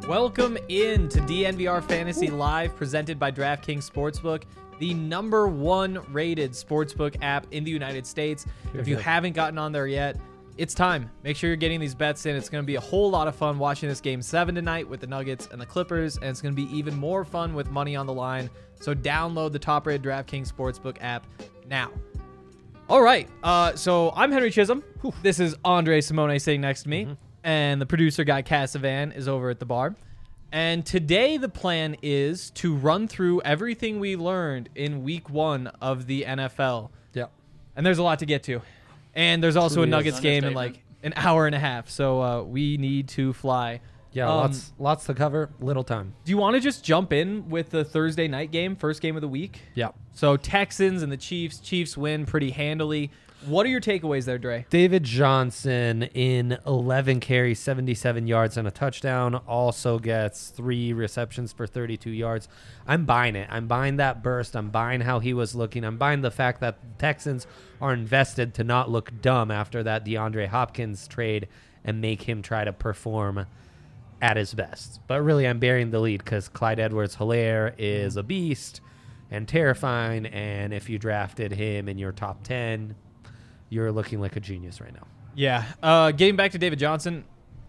Welcome in to DNVR Fantasy Live, presented by DraftKings Sportsbook, the #1 rated sportsbook app in the United States. If you haven't gotten on there yet, it's time. Make sure you're getting these bets in. It's going to be a whole lot of fun watching this Game 7 tonight with the Nuggets and the Clippers, and it's going to be even more fun with money on the line. So download the top-rated DraftKings Sportsbook app now. All right, so I'm Henry Chisholm. This is Andre Simone sitting next to me, and the producer guy, Cassavan, is over at the bar. And today the plan is to run through everything we learned in week 1 of the NFL. Yeah. And there's a lot to get to. And there's also Truly a Nuggets is. game in like an hour and a half, so we need to fly. Yeah, lots to cover, little time. Do you want to just jump in with the Thursday night game, first game of the week? Yeah. So Texans and the Chiefs. Chiefs win pretty handily. What are your takeaways there, Dre? David Johnson in 11 carries, 77 yards and a touchdown. Also gets 3 receptions for 32 yards. I'm buying it. I'm buying that burst. I'm buying how he was looking. I'm buying the fact that the Texans are invested to not look dumb after that DeAndre Hopkins trade and make him try to perform at his best. But really, I'm bearing the lead because Clyde Edwards-Helaire is a beast and terrifying. And if you drafted him in your top 10, you're looking like a genius right now. Yeah. Getting back to David Johnson,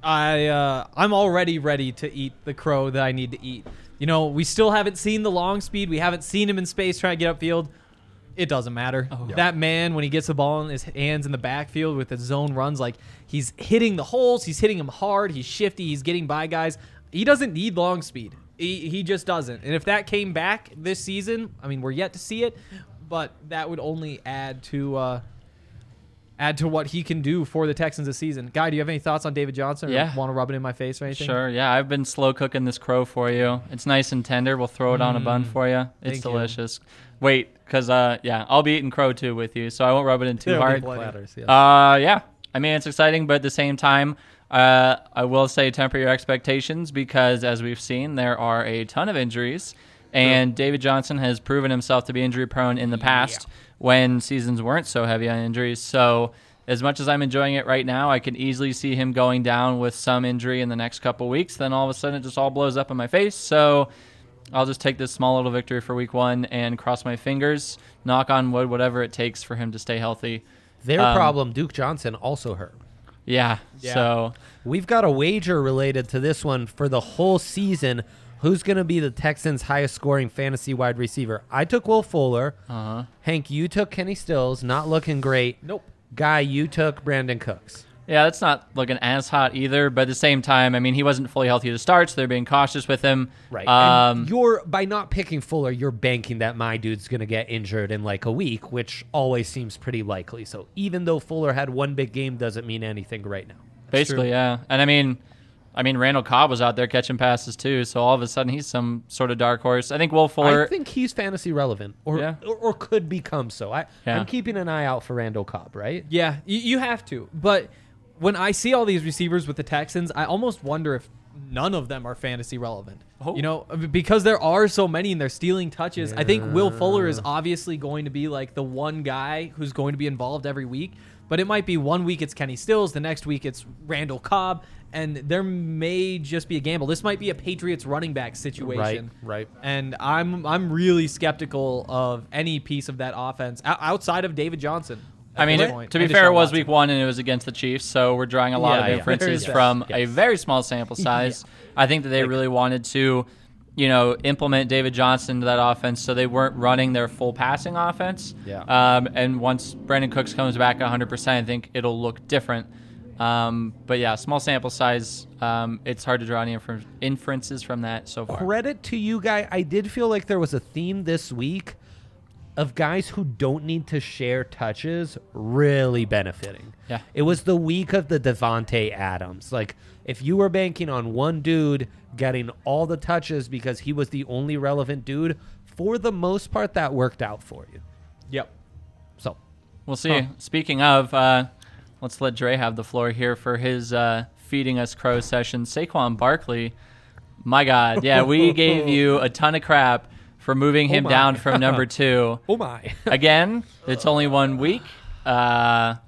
I'm already ready to eat the crow that I need to eat. You know, we still haven't seen the long speed. We haven't seen him in space trying to get upfield. It doesn't matter. That man, when he gets the ball in his hands in the backfield with his zone runs, like he's hitting the holes, he's hitting them hard, he's shifty, he's getting by guys. He doesn't need long speed. He just doesn't. And if that came back this season, I mean, we're yet to see it, but that would only add to what he can do for the Texans this season. Guy, do you have any thoughts on David Johnson? Yeah. Or want to rub it in my face or anything? Sure, yeah. I've been slow cooking this crow for you. It's nice and tender. We'll throw it on a bun for you. It's Thank you. delicious. Wait, because, I'll be eating crow too with you, so I won't rub it in too hard. Platters, yes. Yeah. I mean, it's exciting, but at the same time, I will say temper your expectations because, as we've seen, there are a ton of injuries, and David Johnson has proven himself to be injury-prone in the past when seasons weren't so heavy on injuries. So as much as I'm enjoying it right now, I can easily see him going down with some injury in the next couple weeks. Then all of a sudden it just all blows up in my face. So I'll just take this small little victory for week 1 and cross my fingers, knock on wood, whatever it takes for him to stay healthy. Their problem, Duke Johnson, also hurt. Yeah. So We've got a wager related to this one for the whole season. Who's going to be the Texans' highest scoring fantasy wide receiver? I took Will Fuller. Hank, you took Kenny Stills. Not looking great. Nope. Guy, you took Brandon Cooks. yeah, that's not looking as hot either. But at the same time, I mean, he wasn't fully healthy to start, so they're being cautious with him. Right. And you're by not picking Fuller, you're banking that my dude's going to get injured in like a week, which always seems pretty likely. So even though Fuller had one big game, doesn't mean anything right now. Basically, yeah. And I mean, Randall Cobb was out there catching passes too, so all of a sudden he's some sort of dark horse. I think Will Fuller. I think he's fantasy relevant, or could become so. I'm keeping an eye out for Randall Cobb, right? Yeah, you have to. But when I see all these receivers with the Texans, I almost wonder if none of them are fantasy relevant. You know, because there are so many and they're stealing touches. I think Will Fuller is obviously going to be like the one guy who's going to be involved every week. But it might be one week it's Kenny Stills, the next week it's Randall Cobb, and there may just be a gamble. This might be a Patriots running back situation. Right. And I'm really skeptical of any piece of that offense outside of David Johnson. I mean, to be fair, it was week 1 and it was against the Chiefs, so we're drawing a lot of inferences from a very small sample size. I think that they really wanted to, implement David Johnson into that offense so they weren't running their full passing offense. Yeah. And once Brandon Cooks comes back 100%, I think it'll look different. But yeah, small sample size. It's hard to draw any inferences from that so far. Credit to you, Guy. I did feel like there was a theme this week of guys who don't need to share touches really benefiting. Yeah. It was the week of the Devontae Adams. Like, if you were banking on one dude getting all the touches because he was the only relevant dude, for the most part, that worked out for you. Yep. So we'll see. Speaking of, let's let Dre have the floor here for his feeding us crow session. Saquon Barkley, my God. Yeah, we gave you a ton of crap for moving him down from number 2. Oh, my. Again, it's only 1 week.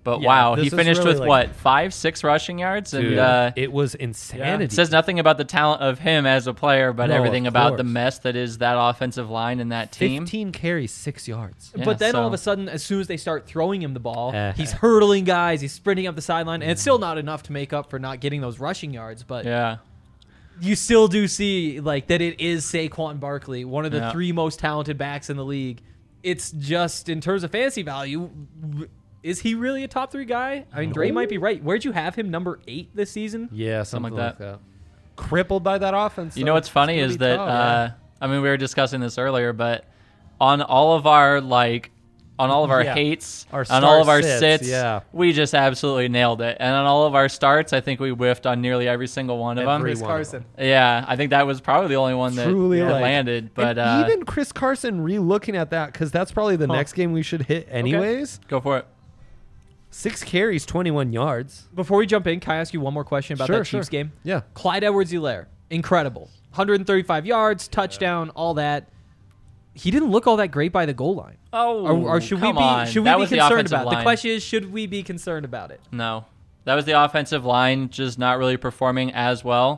But Yeah, wow, this he was finished really with like- what, 5-6 rushing yards, Dude, and it was insanity. it says nothing about the talent of him as a player, but No, everything of about the course. mess that is that offensive line and that team. 15 carries, 6 yards. Yeah, But then all of so- a sudden, as soon as they start throwing him the ball, Eh. he's hurdling guys, he's sprinting up the sideline, and it's still not enough to make up for not getting those rushing yards. But Yeah, you still do see like that it is Saquon Barkley, one of the Yeah. 3 most talented backs in the league. It's just in terms of fantasy value, is he really a top 3 guy? I mean, Dre might be right. Where'd you have him, number 8 this season? Yeah, Something something like like that. Crippled by that offense. you so know what's it's funny gonna is be that tough, yeah. I mean, we were discussing this earlier, but on all of our Yeah. hates, Our on all of start our sits, sits, yeah. we just absolutely nailed it. And on all of our starts, I think we whiffed on nearly every single one of them. Every Chris one of Carson. Yeah, I think that was probably the only one that, Truly, that like- landed. But And even Chris Carson re-looking at that, because that's probably the next game we should hit anyways. go for it. 6 carries, 21 yards. Before we jump in, can I ask you one more question about Sure, that Chiefs sure. game? Yeah. Clyde Edwards-Helaire, incredible. 135 yards, touchdown, all that. He didn't look all that great by the goal line. Oh, Or should we come be on. should we That be was the concerned offensive about it? The line. question is, should we be concerned about it? No, that was the offensive line just not really performing as well.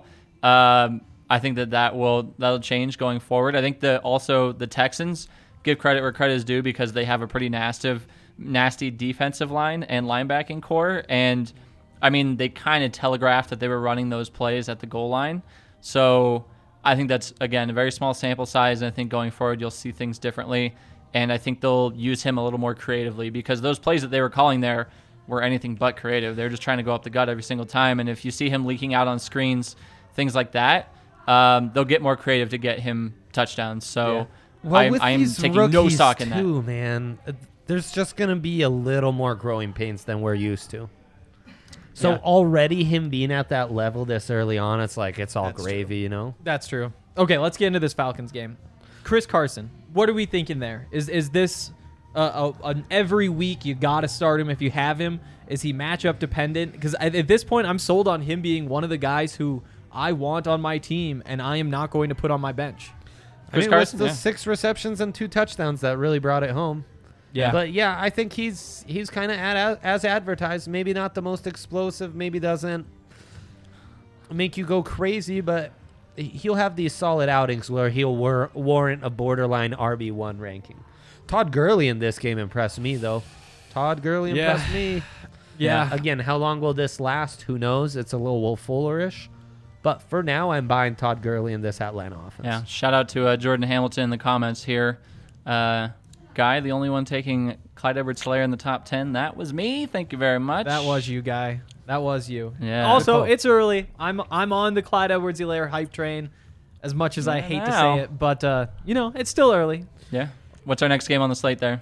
I think that'll change going forward. I think that also the Texans give credit where credit is due because they have a pretty nasty defensive line and linebacking core, and I mean they kind of telegraphed that they were running those plays at the goal line. So I think that's again a very small sample size, and I think going forward you'll see things differently. And I think they'll use him a little more creatively because those plays that they were calling there were anything but creative. They're just trying to go up the gut every single time. And if you see him leaking out on screens, things like that, they'll get more creative to get him touchdowns. So I'm taking no stock in that. too, man. There's just going to be a little more growing pains than we're used to. So Yeah. already him being at that level this early on, it's like it's all That's gravy, you know? That's true. Okay, let's get into this Falcons game. Chris Carson, what are we thinking there? Is this an every week you got to start him if you have him? Is he matchup dependent? Because at this point, I'm sold on him being one of the guys who I want on my team, and I am not going to put on my bench. I mean, Carson, with the yeah. 6 receptions and 2 touchdowns that really brought it home. Yeah. But yeah, I think he's kind of as advertised. Maybe not the most explosive. Maybe doesn't make you go crazy, but he'll have these solid outings where he'll warrant a borderline RB1 ranking. Todd Gurley in this game impressed me, though. Todd Gurley Yeah. impressed me. Yeah. Again, how long will this last? Who knows? It's a little Will Fuller-ish. But for now, I'm buying Todd Gurley in this Atlanta offense. Yeah, shout out to Jordan Hamilton in the comments here. Guy, the only one taking Clyde Edwards-Helaire in the top 10. That was me. Thank you very much. That was you, guy. That was you. Yeah. Also, Good call. it's early. I'm on the Clyde Edwards-Helaire hype train, as much as I hate to Wow. say it, but it's still early. Yeah. What's our next game on the slate there?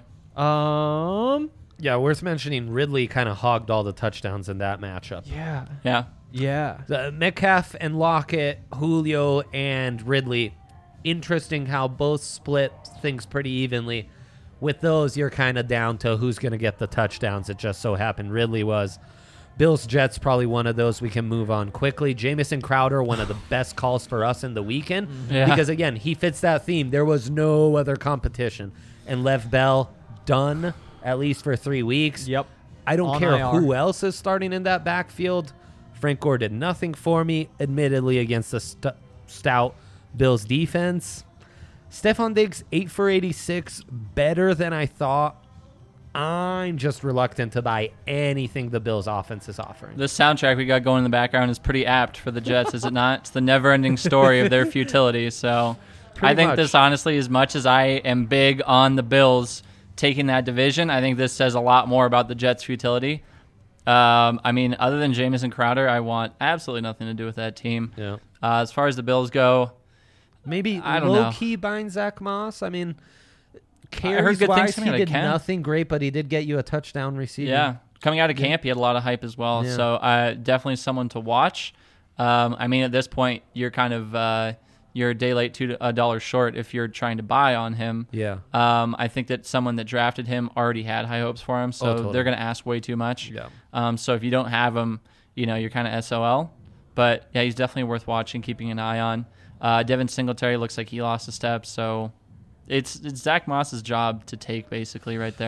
Yeah, worth mentioning, Ridley kind of hogged all the touchdowns in that matchup. Yeah. Yeah. Yeah. Metcalf and Lockett, Julio and Ridley. Interesting how both split things pretty evenly. With those, you're kind of down to who's going to get the touchdowns. It just so happened Ridley was. Bills Jets probably one of those we can move on quickly. Jamison Crowder, one of the best calls for us in the weekend. Yeah. Because, again, he fits that theme. There was no other competition. And Lev Bell, done, at least for 3 weeks. Yep. I don't On care IR. who else is starting in that backfield. Frank Gore did nothing for me, admittedly, against the stout Bills defense. Stephon Diggs, 8 for 86, better than I thought. I'm just reluctant to buy anything the Bills offense is offering. The soundtrack we got going in the background is pretty apt for the Jets, is it not? It's the never-ending story of their futility. So Pretty I think much. this, honestly, as much as I am big on the Bills taking that division, I think this says a lot more about the Jets' futility. I mean, other than Jamison Crowder, I want absolutely nothing to do with that team. Yeah. As far as the Bills go, Maybe I don't know. low-key buying Zach Moss. I mean, heard good things carries-wise, coming he out of did camp. nothing great, but he did get you a touchdown receiving. yeah, coming out of camp, he had a lot of hype as well. Yeah. So definitely someone to watch. I mean, at this point, you're kind of you're a day late, $2 short if you're trying to buy on him. Yeah. I think that someone that drafted him already had high hopes for him, so totally. they're going to ask way too much. Yeah. So if you don't have him, you're kind of SOL. But yeah, he's definitely worth watching, keeping an eye on. Devin Singletary looks like he lost a step, so it's Zach Moss's job to take basically right there.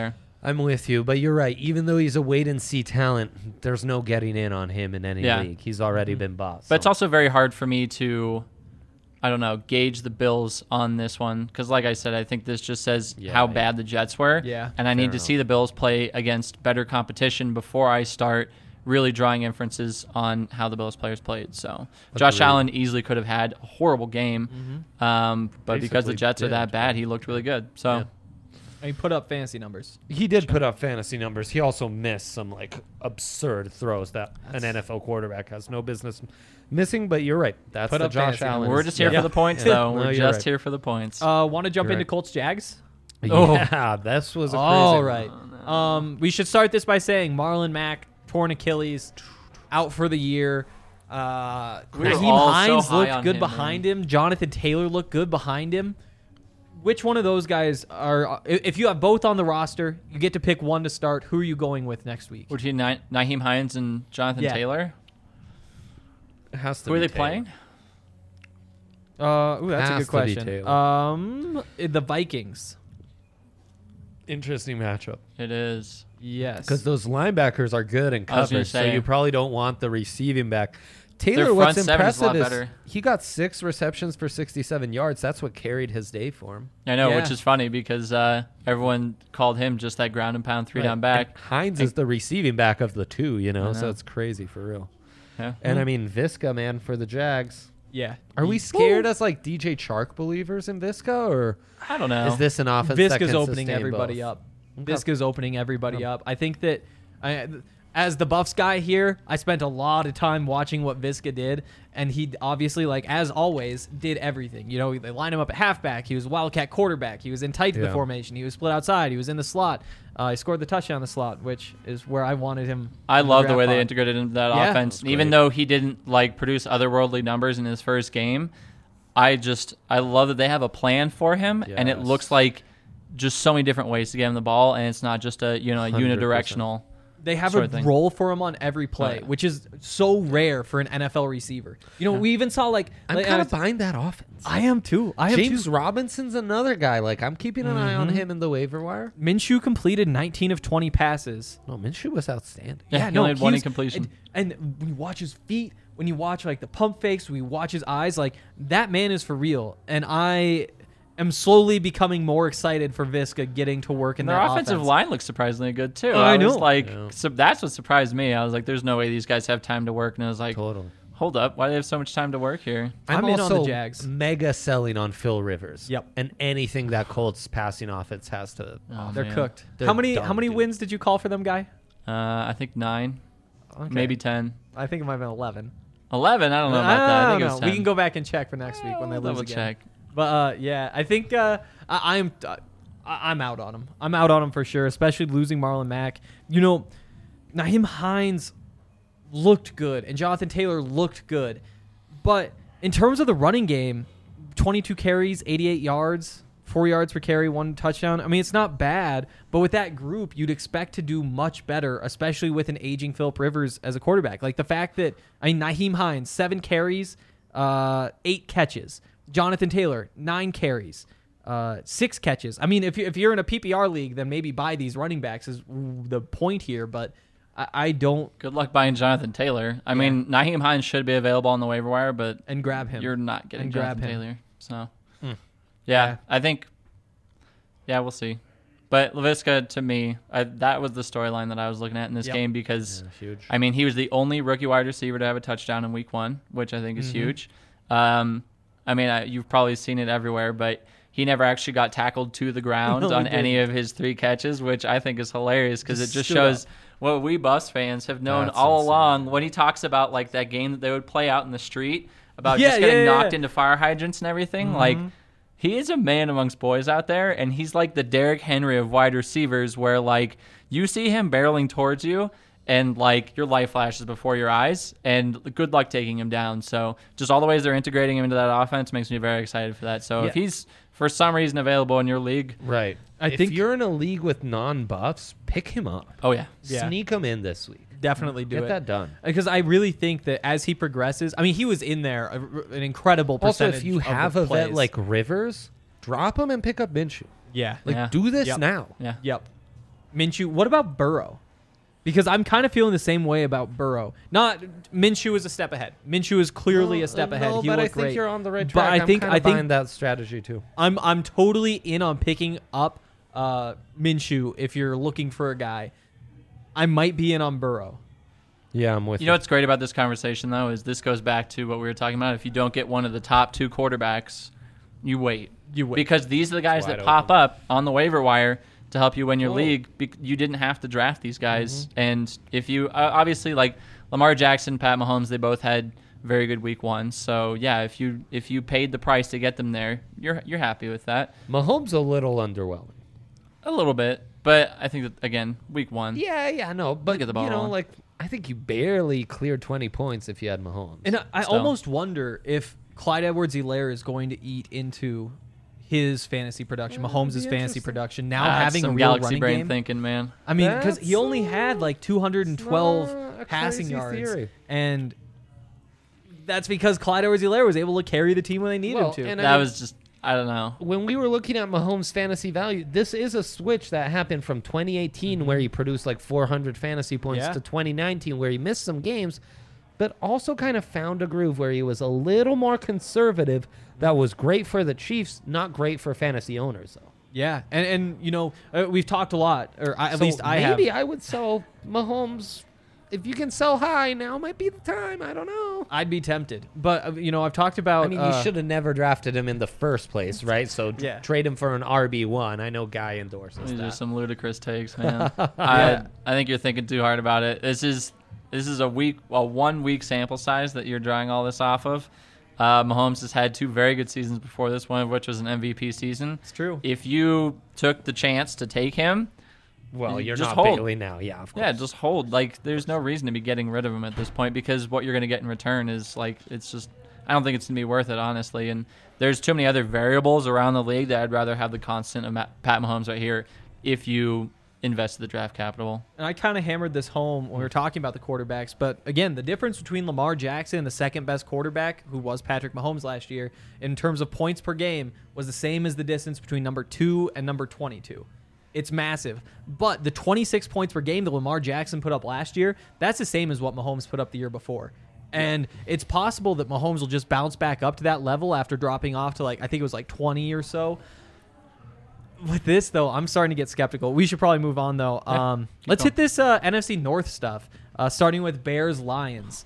I'm with you, but you're right. Even though he's a wait-and-see talent, there's no getting in on him in any league. He's already been bought. But it's also very hard for me to, I don't know, gauge the Bills on this one. Because like I said, I think this just says how bad the Jets were. Yeah. And I need to see the Bills play against better competition before I start really drawing inferences on how the Bills players played. So Josh Allen easily could have had a horrible game. But because the Jets are that bad, he looked really good. So. And he put up fantasy numbers. He did put up fantasy numbers. He also missed some absurd throws that an NFL quarterback has no business missing. But you're right. That's Put the up Josh fantasy Allen. We're just here for the points, though. We're just here for the points. Want to jump You're into right. Colts Jags? Yeah, this was a crazy All one. right. We should start this by saying Marlon Mack, torn Achilles, out for the year. We were Naheem all so Hines high looked on good him, behind him. Jonathan Taylor looked good behind him. Which one of those guys are? If you have both on the roster, you get to pick one to start. Who are you going with next week? Between Naheem Hines and Jonathan Taylor? It has to Who are be they Taylor. playing? That's a Has good to be question. Taylor. The Vikings. Interesting matchup. It is. Yes. Because those linebackers are good in I was gonna coverage, so say. you probably don't want the receiving back. Taylor, Their what's front seven is a lot impressive is better. he got 6 receptions for 67 yards. That's what carried his day for him. I know, Yeah. which is funny because everyone called him just that ground and pound 3-down back. And Hines is the receiving back of the two, I know. so it's crazy for real. Yeah. And I mean, Visca, man, for the Jags. Yeah. Are we scared as DJ Chark believers in Visca, or I don't know. is this an offense that Visca's can opening sustain everybody both? up. Visca's opening everybody up. I think that as the Buffs guy here, I spent a lot of time watching what Visca did, and he obviously, as always, did everything. You know, they lined him up at halfback. He was a wildcat quarterback. He was in tight to the formation. He was split outside. He was in the slot. He scored the touchdown in the slot, which is where I wanted him. I love the way they pod. integrated into that Yeah. offense. That was Even great. though he didn't produce otherworldly numbers in his first game, I love that they have a plan for him, and it Yes. looks like just so many different ways to get him the ball, and it's not just a 100%. unidirectional. They have sort a of thing. role for him on every play, Oh, yeah. which is so rare for an NFL receiver. You know, we even saw I'm kind of behind that offense. I am too. James Robinson's another guy. I'm keeping an eye on him in the waiver wire. Minshew completed 19 of 20 passes. No, Minshew was outstanding. Yeah, he only had one incompletion. And when you watch his feet, when you watch the pump fakes, when you watch his eyes, that man is for real. And I am slowly becoming more excited for Visca getting to work in Their that offensive offense. line looks surprisingly good too. I was know. Yeah. so that's what surprised me. I was like, "There's no way these guys have time to work." And I was like, Totally. "Hold up, why do they have so much time to work here?" I'm in on also the Jags. mega selling on Phil Rivers. Yep. And anything that Colts passing offense has to. Oh, They're man. cooked. They're how many done, dude. wins did you call for them, guy? I think 9, Okay. maybe 10, I think it might have been 11. 11. I don't know about that. I think it was 10. We can go back and check for next week when they We'll lose double again. check. But yeah, I think I'm out on him. I'm out on him for sure, especially losing Marlon Mack. You know, Naheem Hines looked good and Jonathan Taylor looked good, but in terms of the running game, 22 carries, 88 yards, 4 yards per carry, 1 touchdown. I mean, it's not bad, but with that group, you'd expect to do much better, especially with an aging Phillip Rivers as a quarterback. Like the fact that Naheem Hines 7 carries, 8 catches. Jonathan Taylor 9 carries, 6 catches. I mean, if you're in a PPR league, then maybe buy these running backs is the point here. But I don't. Good luck buying Jonathan Taylor. I mean, Naheem Hines should be available on the waiver wire, but And grab him. you're not getting And grab Jonathan him. Taylor. So, Yeah. yeah, I think, we'll see. But Laviska, to me, that was the storyline that I was looking at in this Yep. game because, Huge. I mean, he was the only rookie wide receiver to have a touchdown in week 1, which I think is huge. I mean, you've probably seen it everywhere, but he never actually got tackled to the ground No, he on any didn't. of his 3 catches, which I think is hilarious because it Just just stood shows up. what we Buffs fans have known That's all insane. along when he talks about that game that they would play out in the street about Yeah, just getting yeah, knocked yeah. into fire hydrants and everything. He is a man amongst boys out there, and he's like the Derrick Henry of wide receivers where you see him barreling towards you and your life flashes before your eyes, and good luck taking him down. So just all the ways they're integrating him into that offense makes me very excited for that. So if he's for some reason available in your league, Right. I if think- you're in a league with non-buffs, pick him up. oh yeah. Yeah. Sneak him in this week. Definitely do Get it. that done. Because I really think that as he progresses, I mean, he was in there an incredible Also, percentage. if you of have the a vet plays. like Rivers, drop him and pick up Minshew. yeah, Do this Yeah. now. Yeah. yep. Minshew. What about Burrow? Because I'm kind of feeling the same way about Burrow. Not Minshew is a step ahead. Minshew is clearly a step ahead. No, He but I looked think great. you're on the right But track. I think I'm buying that strategy too. I'm totally in on picking up Minshew if you're looking for a guy. I might be in on Burrow. Yeah, I'm with you. You know what's great about this conversation, though, is this goes back to what we were talking about. If you don't get one of the top 2 quarterbacks, you wait. Because these are the guys that pop up on the waiver wire to help you win your league. You didn't have to draft these guys. And if you obviously, like Lamar Jackson, Pat Mahomes, they both had very good week 1. So, yeah, if you paid the price to get them there, you're happy with that. Mahomes a little underwhelming. A little bit. But I think that, again, week 1. Yeah, no. But, Get the ball you know, rolling. like, I think you barely cleared 20 points if you had Mahomes. And I Still. almost wonder if Clyde Edwards-Helaire is going to eat into his fantasy production, Mahomes' fantasy interesting. production. Now That's having a some real galaxy running brain game. thinking, man. I mean, because That's, he only had like 212 not a passing crazy yards, theory. and that's because Clyde Edwards-Helaire was able to carry the team when they needed Well, him to. and That was just, I don't know. when we were looking at Mahomes' fantasy value, this is a switch that happened from 2018 where he produced like 400 fantasy points Yeah. to 2019 where he missed some games, but also kind of found a groove where he was a little more conservative. That was great for the Chiefs, not great for fantasy owners, though. Yeah, and you know, we've talked a lot, or at least I have. Maybe I would sell Mahomes. If you can sell high, now might be the time. I don't know. I'd be tempted, but you know, I've talked about. I mean, you should have never drafted him in the first place, right? So Yeah. trade him for an RB1. I know Guy endorses These are that. some ludicrous takes, man. I think you're thinking too hard about it. This is a 1 week sample size that you're drawing all this off of. Mahomes has had 2 very good seasons before this, one of which was an MVP season. It's true. If you took the chance to take him, Well, you're just not hold. Bailey now. Yeah, of course. yeah, just hold. Like, there's no reason to be getting rid of him at this point because what you're going to get in return is like, it's just, I don't think it's going to be worth it, honestly. And there's too many other variables around the league that I'd rather have the constant of Pat Mahomes right here if you invested the draft capital. And I kind of hammered this home when we were talking about the quarterbacks. But again, the difference between Lamar Jackson and the second best quarterback, who was Patrick Mahomes last year, in terms of points per game, was the same as the distance between number 2 and number 22. It's massive. But the 26 points per game that Lamar Jackson put up last year, that's the same as what Mahomes put up the year before. And it's possible that Mahomes will just bounce back up to that level after dropping off to I think it was 20 or so. With this, though, I'm starting to get skeptical. We should probably move on, though. Let's hit this NFC North stuff, starting with Bears-Lions.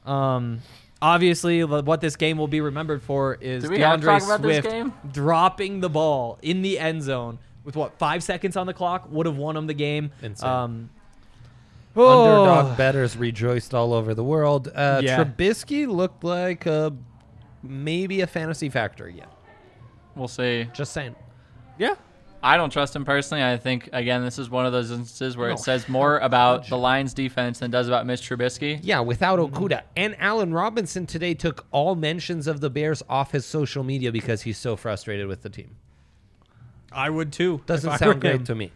Obviously, what this game will be remembered for is Do we have to DeAndre talk about this Swift game? dropping the ball in the end zone with, 5 seconds on the clock? Would have won him the game. Insane. Oh. Underdog bettors rejoiced all over the world. Yeah. Trubisky looked like maybe a fantasy factor again. We'll see. Just saying. Yeah. I don't trust him personally. I think, again, this is one of those instances where it says more about the Lions defense than it does about Mitch Trubisky. Yeah, without Okuda. And Allen Robinson today took all mentions of the Bears off his social media because he's so frustrated with the team. I would, too. Doesn't if I sound were him. great to me.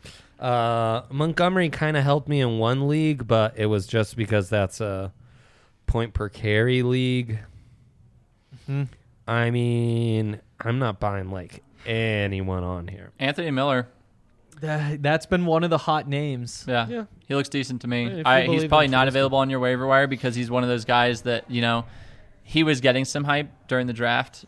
Montgomery kind of helped me in one league, but it was just because that's a point per carry league. Mm-hmm. I mean, I'm not buying anyone on here. Anthony Miller. That's been one of the hot names. Yeah. He looks decent to me. If you He's believe probably in not Trubisky. available on your waiver wire because he's one of those guys that, he was getting some hype during the draft.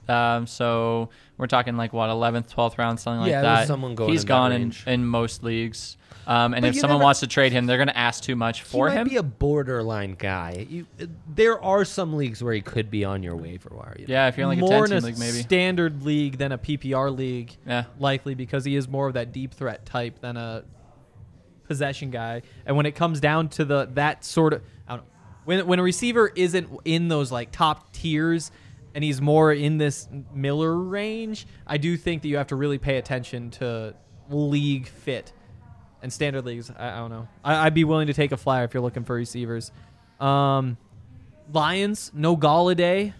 So we're talking 11th, 12th round, something like Yeah, that. there's someone going He's in that gone range. in most leagues. And But if you someone never- wants to trade him, they're going to ask too much for he him. might be a borderline guy. There are some leagues where he could be on your waiver wire. Yeah, if you're in More a in 10-team a league, maybe. standard league than a PPR league. Yeah. Likely because he is more of that deep threat type than a possession guy. And when it comes down to that sort of, I don't know, when a receiver isn't in those top tiers and he's more in this Miller range, I do think that you have to really pay attention to league fit. And standard leagues, I don't know. I'd be willing to take a flyer if you're looking for receivers. Lions, no Galladay.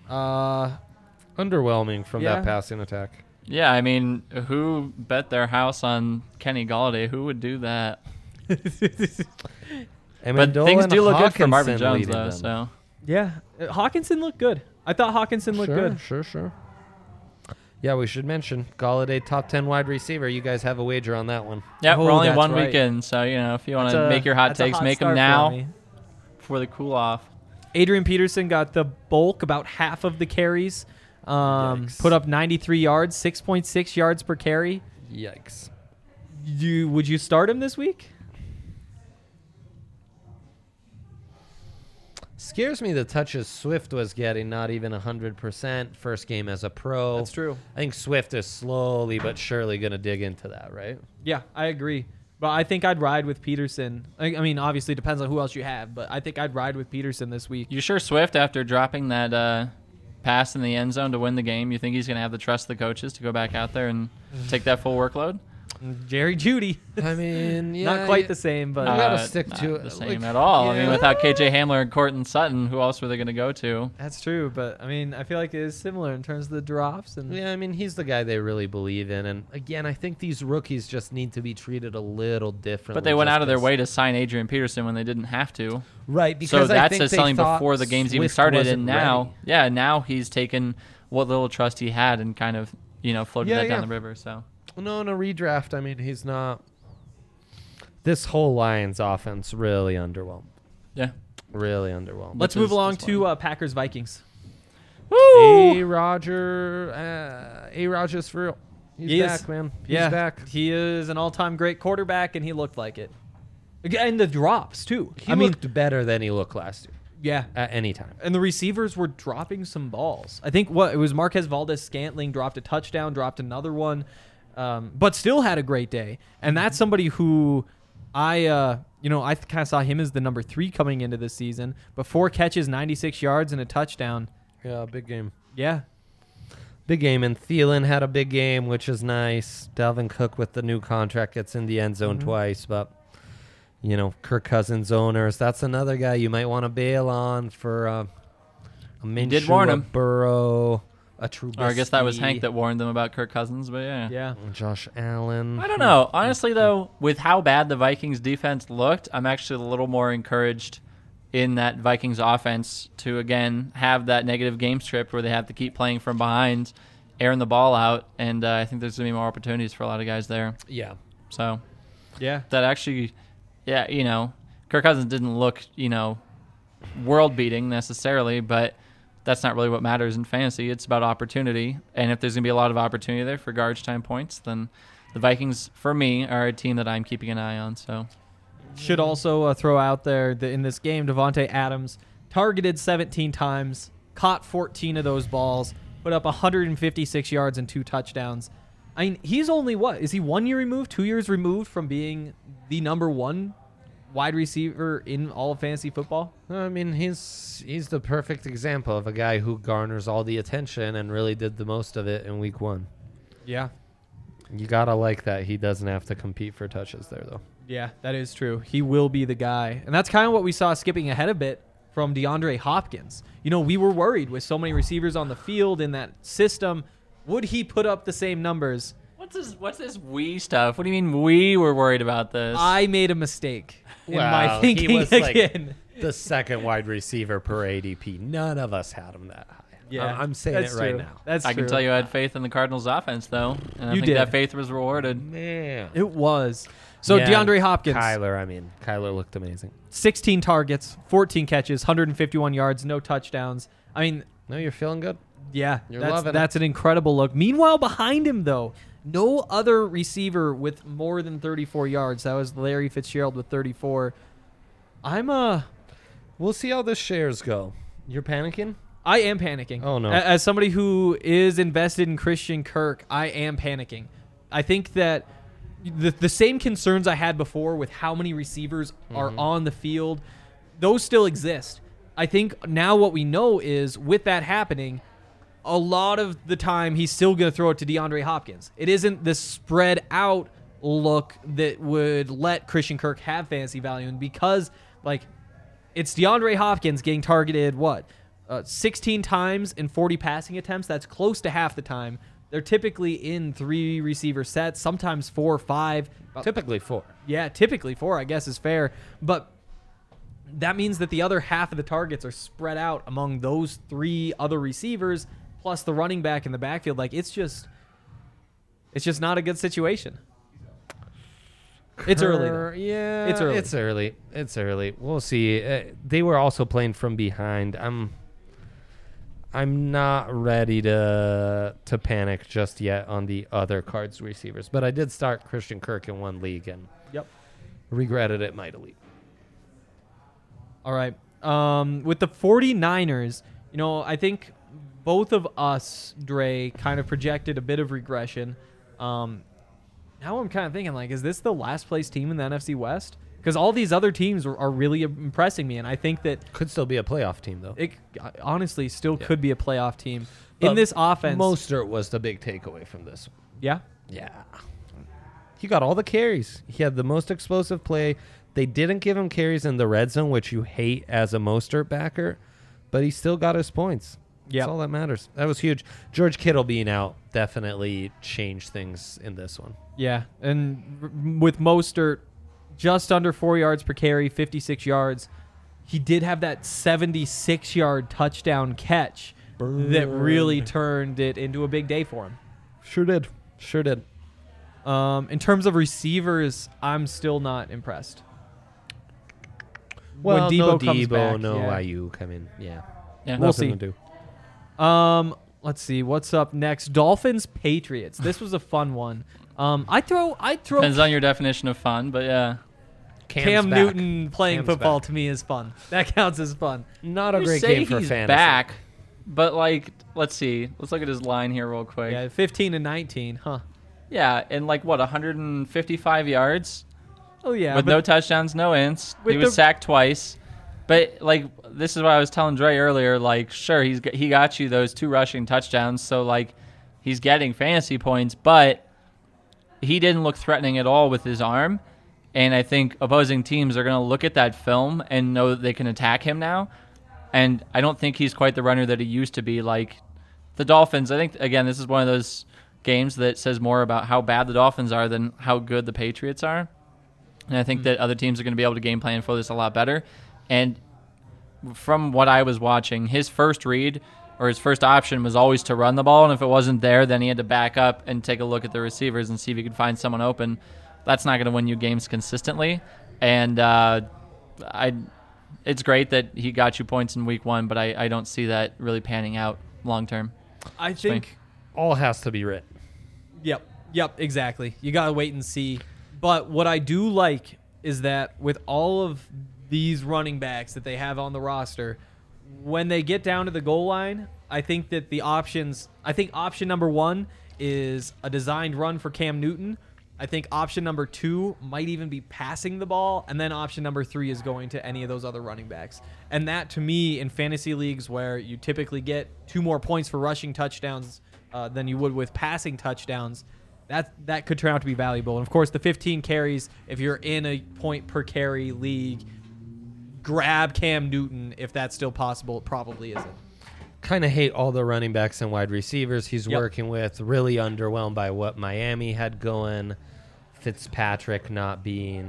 Underwhelming from Yeah. that passing attack. Yeah, I mean, who bet their house on Kenny Galladay? Who would do that? But things do look good for Marvin Jones, though. So Yeah, Hawkinson looked good. I thought Hawkinson looked good. Sure. Yeah, we should mention Galladay, top 10 wide receiver. You guys have a wager on that one. Yeah, Oh, we're only that's one right. week in, so if you want That's to a- make your hot that's a takes, hot make them start for now me. before the cool off. Adrian Peterson got the bulk, about half of the carries. Yikes. Put up 93 yards, 6.6 yards per carry. Yikes. Would you start him this week? Scares me the touches Swift was getting, not even 100%. First game as a pro. That's true. I think Swift is slowly but surely going to dig into that, right? Yeah, I agree. But I think I'd ride with Peterson. I mean, obviously, it depends on who else you have, but I think I'd ride with Peterson this week. You sure Swift, after dropping that pass in the end zone to win the game, you think he's going to have the trust of the coaches to go back out there and take that full workload? Jerry Jeudy. I mean, yeah. Not quite the same, but You gotta stick not to it. the same Like, at all. I mean, yeah. without KJ Hamler and Cortland Sutton, who else were they going to go to? that's true. But, I mean, I feel like it is similar in terms of the drops. And Yeah, I mean, he's the guy they really believe in. And again, I think these rookies just need to be treated a little differently. But they went just out of their 'cause- way to sign Adrian Peterson when they didn't have to. Right, So because I that think says they something thought before the games even Swift started. wasn't And now, ready. yeah, now he's taken what little trust he had and kind of, floated Yeah, that down yeah. the river. So No, in a redraft, I mean, he's not. This whole Lions offense really underwhelmed. yeah. Really underwhelmed. let's Which move is along disappointing. to Packers Vikings. A. Rodgers for real. He's He back, is. man. He's back. He is an all-time great quarterback, and he looked like it. And the drops, too. He looked better than he looked last year Yeah. at any time. And the receivers were dropping some balls. I think it was Marquez Valdez-Scantling dropped a touchdown, dropped another one, but still had a great day. And that's somebody who I kind of saw him as the number 3 coming into this season. But 4 catches, 96 yards, and a touchdown. Yeah, big game. Yeah. Big game. And Thielen had a big game, which is nice. Dalvin Cook with the new contract gets in the end zone twice. But, Kirk Cousins owners, that's another guy you might want to bail on for a Minshew, did warn a him. Burrow, a Trubisky. Or I guess that was Hank that warned them about Kirk Cousins, but yeah. Yeah. Josh Allen. I don't know. Honestly, though, with how bad the Vikings defense looked, I'm actually a little more encouraged in that Vikings offense to, again, have that negative game script where they have to keep playing from behind, airing the ball out, and I think there's going to be more opportunities for a lot of guys there. Yeah. So Yeah. that actually, Kirk Cousins didn't look, world-beating necessarily, but that's not really what matters in fantasy. It's about opportunity, and if there's going to be a lot of opportunity there for garbage time points, then the Vikings, for me, are a team that I'm keeping an eye on. So Should also throw out there that in this game, Devontae Adams targeted 17 times, caught 14 of those balls, put up 156 yards and 2 touchdowns. I mean, he's only is he 1 year removed, 2 years removed from being the number 1 wide receiver in all of fantasy football? I mean, he's the perfect example of a guy who garners all the attention and really did the most of it in week 1. Yeah. You got to like that. He doesn't have to compete for touches there, though. Yeah, that is true. He will be the guy. And that's kind of what we saw skipping ahead a bit from DeAndre Hopkins. We were worried with so many receivers on the field in that system. Would he put up the same numbers? what's this we stuff? What do you mean we were worried about this? I made a mistake in my Wow, thinking he was again. the second wide receiver per ADP. None of us had him that high. Yeah, I'm saying it that's right true. now. That's I can true. tell you I had faith in the Cardinals offense, though, and I You think did. that faith was rewarded. Man. It was. So Yeah, DeAndre Hopkins, Kyler looked amazing. 16 targets, 14 catches, 151 yards, no touchdowns. I mean, No, you're feeling good? yeah, You're loving it. that's an incredible look. Meanwhile, behind him, though, no other receiver with more than 34 yards. That was Larry Fitzgerald with 34. We'll see how the shares go. You're panicking? I am panicking. Oh, no. As somebody who is invested in Christian Kirk, I am panicking. I think that the same concerns I had before with how many receivers are on the field, those still exist. I think now what we know is with that happening, a lot of the time he's still going to throw it to DeAndre Hopkins. It isn't the spread out look that would let Christian Kirk have fantasy value. And because, it's DeAndre Hopkins getting targeted, 16 times in 40 passing attempts. That's close to half the time. They're typically in 3 receiver sets, sometimes 4 or 5. Typically 4. Yeah, typically 4, I guess, is fair. But that means that the other half of the targets are spread out among those 3 other receivers. plus the running back in the backfield. Like it's just not a good situation. It's early, though. Yeah, It's early. It's early. We'll see. They were also playing from behind. I'm not ready to panic just yet on the other Cards receivers, but I did start Christian Kirk in one league and regretted it mightily. All right. With the 49ers, I think both of us, Dre, kind of projected a bit of regression. Now I'm kind of thinking, like, is this the last place team in the NFC West? Because all these other teams are really impressing me, and I think that Could still be a playoff team, though. it honestly still could be a playoff team. But In this offense, Mostert was the big takeaway from this one. yeah, Yeah. He got all the carries. He had the most explosive play. They didn't give him carries in the red zone, which you hate as a Mostert backer, but he still got his points. Yep. That's all that matters. That was huge. George Kittle being out definitely changed things in this one. yeah. And with Mostert, just under 4 yards per carry, 56 yards. He did have that 76-yard touchdown catch that really turned it into a big day for him. Sure did. In terms of receivers, I'm still not impressed. Well, when Debo no comes Debo, back, no yeah. Ayuk. I mean, yeah. Yeah. We'll Nothing see. to do. Let's see what's up next. Dolphins Patriots. This was a fun one. I throw Depends on your definition of fun, but yeah. Cam back. Newton playing Cam's football back. to me is fun. That counts as fun. Not a You great say game for he's fantasy. back, but like, let's see. Let's look at his line here real quick. Yeah, 15 and 19, huh? Yeah, and like what, 155 yards Oh yeah, with but no touchdowns, no ints. with He was the- sacked twice. But like, this is what I was telling Dre earlier. Like, sure, he got you those 2 rushing touchdowns, so like, he's getting fantasy points, but he didn't look threatening at all with his arm. And I think opposing teams are going to look at that film and know that they can attack him now. And I don't think he's quite the runner that he used to be. Like the Dolphins, I think, again, this is one of those games that says more about how bad the Dolphins are than how good the Patriots are. And I think that other teams are going to be able to game plan for this a lot better. And from what I was watching, his first read or his first option was always to run the ball. And if it wasn't there, then he had to back up and take a look at the receivers and see if he could find someone open. That's not going to win you games consistently. And it's great that he got you points in week 1, but I don't see that really panning out long term. I think. All has to be written. Yep, exactly. You gotta wait and see. But what I do like is that with all of these running backs that they have on the roster, when they get down to the goal line, I think that option number 1 is a designed run for Cam Newton. I think option number 2 might even be passing the ball, and then option number 3 is going to any of those other running backs. And that, to me, in fantasy leagues where you typically get 2 more points for rushing touchdowns than you would with passing touchdowns, that could turn out to be valuable. And, of course, the 15 carries, if you're in a point-per-carry league, grab Cam Newton if that's still possible. It probably isn't. Kind of hate all the running backs and wide receivers he's working with. Really underwhelmed by what Miami had going. Fitzpatrick not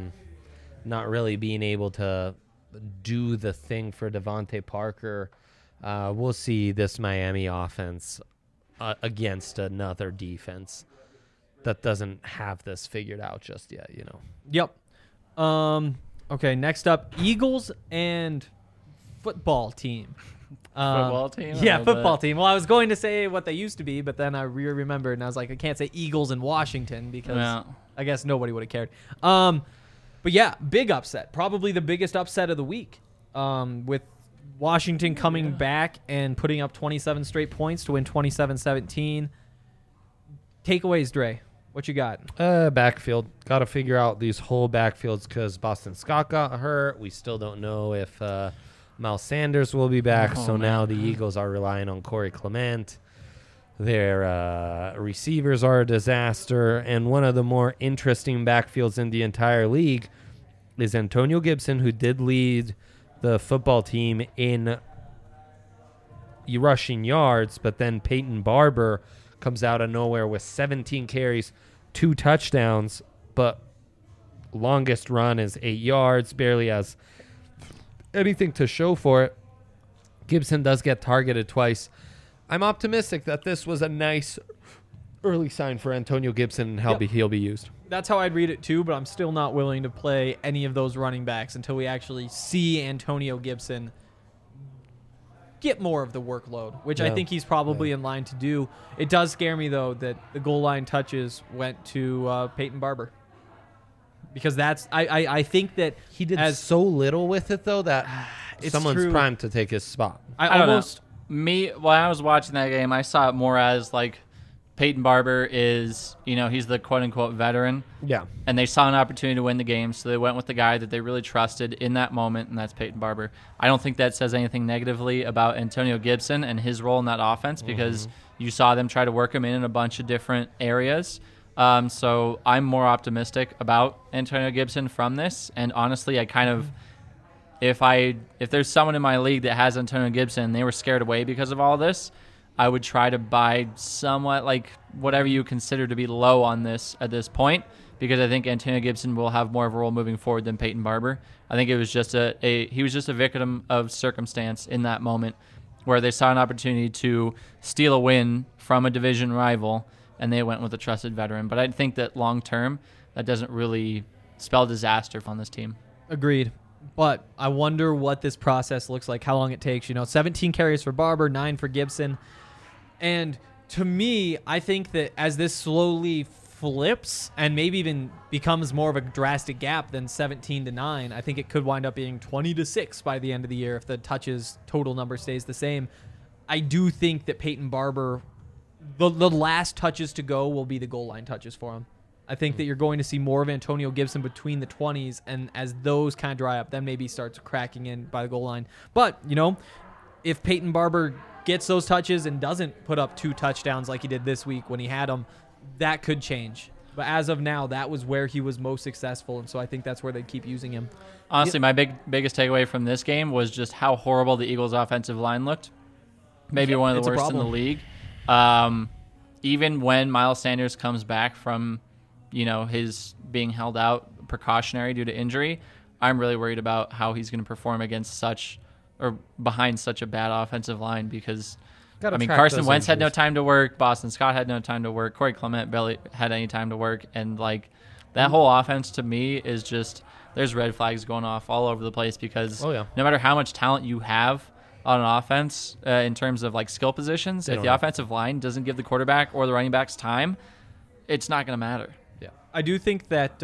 really being able to do the thing for Devontae Parker. We'll see this Miami offense against another defense that doesn't have this figured out just yet, Yep. Okay, next up, Eagles and football team. Football team? I Yeah, love football that. team. Well, I was going to say what they used to be, but then I remembered, and I was like, I can't say Eagles in Washington because Yeah. I guess nobody would have cared. But yeah, big upset. Probably the biggest upset of the week, with Washington coming back and putting up 27 straight points to win 27-17. Takeaways, Dre. What you got? Backfield. Got to figure out these whole backfields because Boston Scott got hurt. We still don't know if Miles Sanders will be back. Oh, So man. now the Eagles are relying on Corey Clement. Their receivers are a disaster. And one of the more interesting backfields in the entire league is Antonio Gibson, who did lead the football team in rushing yards, but then Peyton Barber comes out of nowhere with 17 carries, 2 touchdowns, but longest run is 8 yards, barely has anything to show for it. Gibson does get targeted twice. I'm optimistic that this was a nice early sign for Antonio Gibson and how Yep. he'll be used. That's how I'd read it too, but I'm still not willing to play any of those running backs until we actually see Antonio Gibson get more of the workload, which I Yeah. think he's probably in line to do. It does scare me, though, that the goal line touches went to Peyton Barber. Because I think that He did as so little with it, though, that It's someone's true. primed to take his spot. I don't almost know. When I was watching that game, I saw it more as like Peyton Barber is, he's the quote unquote veteran. Yeah. And they saw an opportunity to win the game, so they went with the guy that they really trusted in that moment, and that's Peyton Barber. I don't think that says anything negatively about Antonio Gibson and his role in that offense because you saw them try to work him in a bunch of different areas. So I'm more optimistic about Antonio Gibson from this, and honestly, I kind of if there's someone in my league that has Antonio Gibson and they were scared away because of all this, I would try to buy somewhat like whatever you consider to be low on this at this point, because I think Antonio Gibson will have more of a role moving forward than Peyton Barber. I think it was just he was just a victim of circumstance in that moment where they saw an opportunity to steal a win from a division rival and they went with a trusted veteran. But I think that long term, that doesn't really spell disaster on this team. agreed. But I wonder what this process looks like, how long it takes. 17 carries for Barber, 9 for Gibson. And to me, I think that as this slowly flips and maybe even becomes more of a drastic gap than 17-9, I think it could wind up being 20-6 by the end of the year if the touches total number stays the same. I do think that Peyton Barber, the last touches to go will be the goal line touches for him. I think that you're going to see more of Antonio Gibson between the 20s, and as those kind of dry up, then maybe starts cracking in by the goal line. But, if Peyton Barber gets those touches and doesn't put up 2 touchdowns like he did this week when he had them, that could change. But as of now, that was where he was most successful, and so I think that's where they keep using him. Honestly, my biggest takeaway from this game was just how horrible the Eagles' offensive line looked. Maybe one of it's the a worst in the problem. league. Even when Miles Sanders comes back from, his being held out precautionary due to injury, I'm really worried about how he's going to perform against behind such a bad offensive line because, Gotta track Carson those Wentz had no injuries. time to work. Boston Scott had no time to work. Corey Clement barely had any time to work. And, that whole offense to me is just there's red flags going off all over the place because Oh, yeah. no matter how much talent you have on an offense in terms of, skill positions, They if don't the have- offensive line doesn't give the quarterback or the running backs time, it's not going to matter. Yeah. I do think that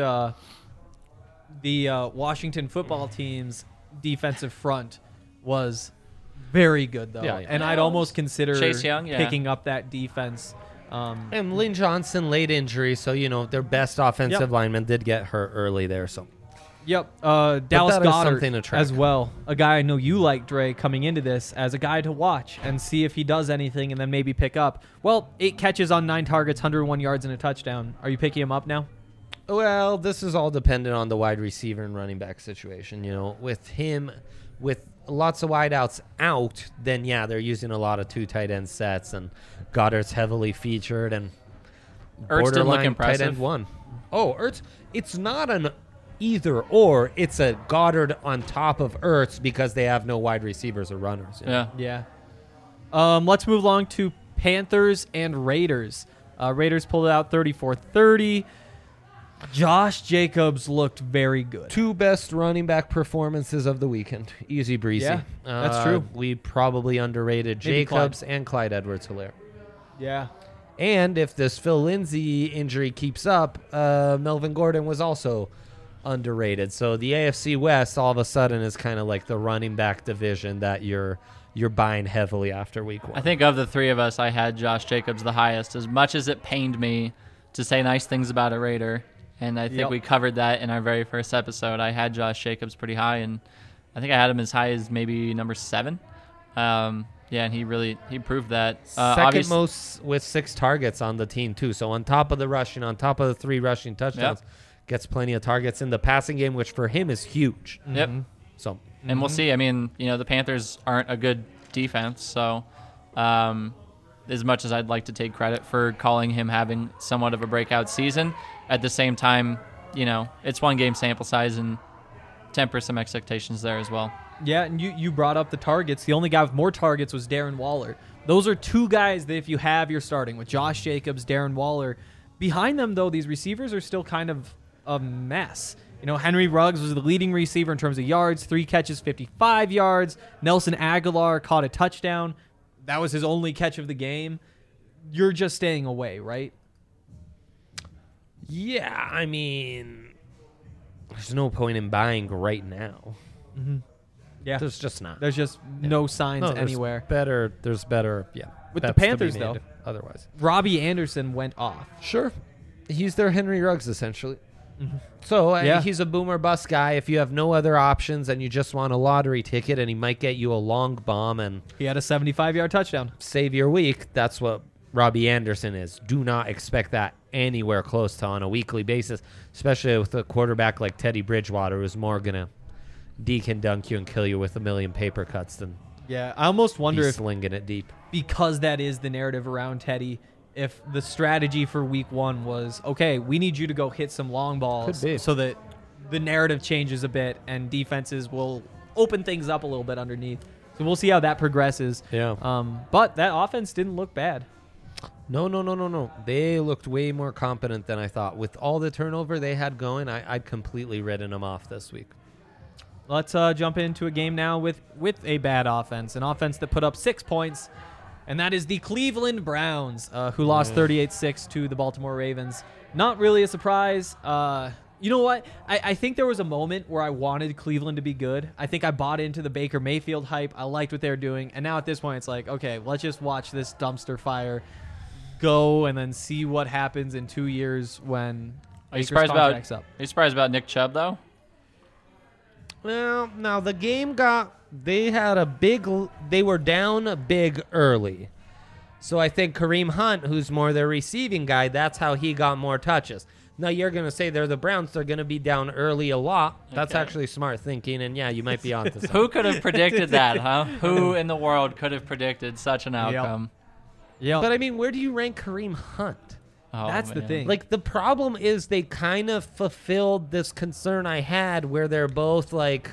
the Washington football team's defensive front was very good, though. Yeah, yeah. And I'd almost consider Chase Young, yeah. picking up that defense. And Lynn Johnson, late injury, so, their best offensive Yep. lineman did get hurt early there, so. Yep. Dallas that is Goedert something to track. as well. A guy I know you like, Dre, coming into this as a guy to watch and see if he does anything and then maybe pick up. Well, 8 catches on 9 targets, 101 yards and a touchdown. Are you picking him up now? Well, this is all dependent on the wide receiver and running back situation. With him, with lots of wideouts out, then yeah, they're using a lot of 2 tight end sets, and Goddard's heavily featured, and Ertz didn't look borderline tight impressive. end 1. Oh, Ertz, it's not an either or. It's a Goddard on top of Ertz because they have no wide receivers or runners. Yeah. Let's move along to Panthers and Raiders. Raiders pulled it out 34-30. Josh Jacobs looked very good. 2 best running back performances of the weekend. Easy breezy. Yeah, that's true. We probably underrated Maybe Jacobs and Clyde Edwards-Helaire. Yeah. And if this Phil Lindsay injury keeps up, Melvin Gordon was also underrated. So the AFC West all of a sudden is kind of like the running back division that you're buying heavily after week 1. I think of the 3 of us, I had Josh Jacobs the highest, as much as it pained me to say nice things about a Raider. And I think Yep. we covered that in our very first episode. I had Josh Jacobs pretty high, and I think I had him as high as maybe number 7. And he proved that. Second most with 6 targets on the team too. So on top of the rushing, on top of the 3 rushing touchdowns, gets plenty of targets in the passing game, which for him is huge. Yep. So And we'll see. I mean, the Panthers aren't a good defense, so as much as I'd like to take credit for calling him having somewhat of a breakout season, at the same time, it's 1 game sample size and temper some expectations there as well. Yeah, and you brought up the targets. The only guy with more targets was Darren Waller. Those are two guys that if you have, you're starting with Josh Jacobs, Darren Waller. Behind them, though, these receivers are still kind of a mess. You know, Henry Ruggs was the leading receiver in terms of yards, 3 catches, 55 yards. Nelson Aguilar caught a touchdown. That was his only catch of the game. You're just staying away, right? Yeah, I mean, there's no point in buying right now. Mm-hmm. Yeah. There's just not. There's just no signs No, there's anywhere. There's better, yeah. With the bets to be Panthers, made though. Otherwise. Robbie Anderson went off. Sure. He's their Henry Ruggs, essentially. Mm-hmm. So Yeah. he's a boomer bust guy. If you have no other options and you just want a lottery ticket and he might get you a long bomb and He had a 75-yard touchdown. save your week, that's what Robbie Anderson is. Do not expect that anywhere close to on a weekly basis, especially with a quarterback like Teddy Bridgewater, who's more going to deke and dunk you and kill you with a million paper cuts than Yeah, I almost wonder be if slinging it deep. because that is the narrative around Teddy, if the strategy for week 1 was, okay, we need you to go hit some long balls Could be. so that the narrative changes a bit and defenses will open things up a little bit underneath. So we'll see how that progresses. Yeah. But that offense didn't look bad. No. They looked way more competent than I thought. With all the turnover they had going, I'd completely written them off this week. Let's jump into a game now with a bad offense, an offense that put up 6 points, and that is the Cleveland Browns, who lost 38-6 to the Baltimore Ravens. Not really a surprise. You know what? I think there was a moment where I wanted Cleveland to be good. I think I bought into the Baker Mayfield hype. I liked what they were doing, and now at this point it's like, okay, let's just watch this dumpster fire go and then see what happens in 2 years when Are you Baker's surprised contract's about? up. Are you surprised about Nick Chubb though? Well, now the game they were down big early. So I think Kareem Hunt, who's more their receiving guy, that's how he got more touches. Now you're going to say they're the Browns, they're going to be down early a lot. That's Okay. actually smart thinking, and yeah, you might be onto something. Who could have predicted that, huh? Who in the world could have predicted such an outcome? Yeah, But I mean, where do you rank Kareem Hunt? Oh, that's the man. thing. Like, the problem is they kind of fulfilled this concern I had where they're both like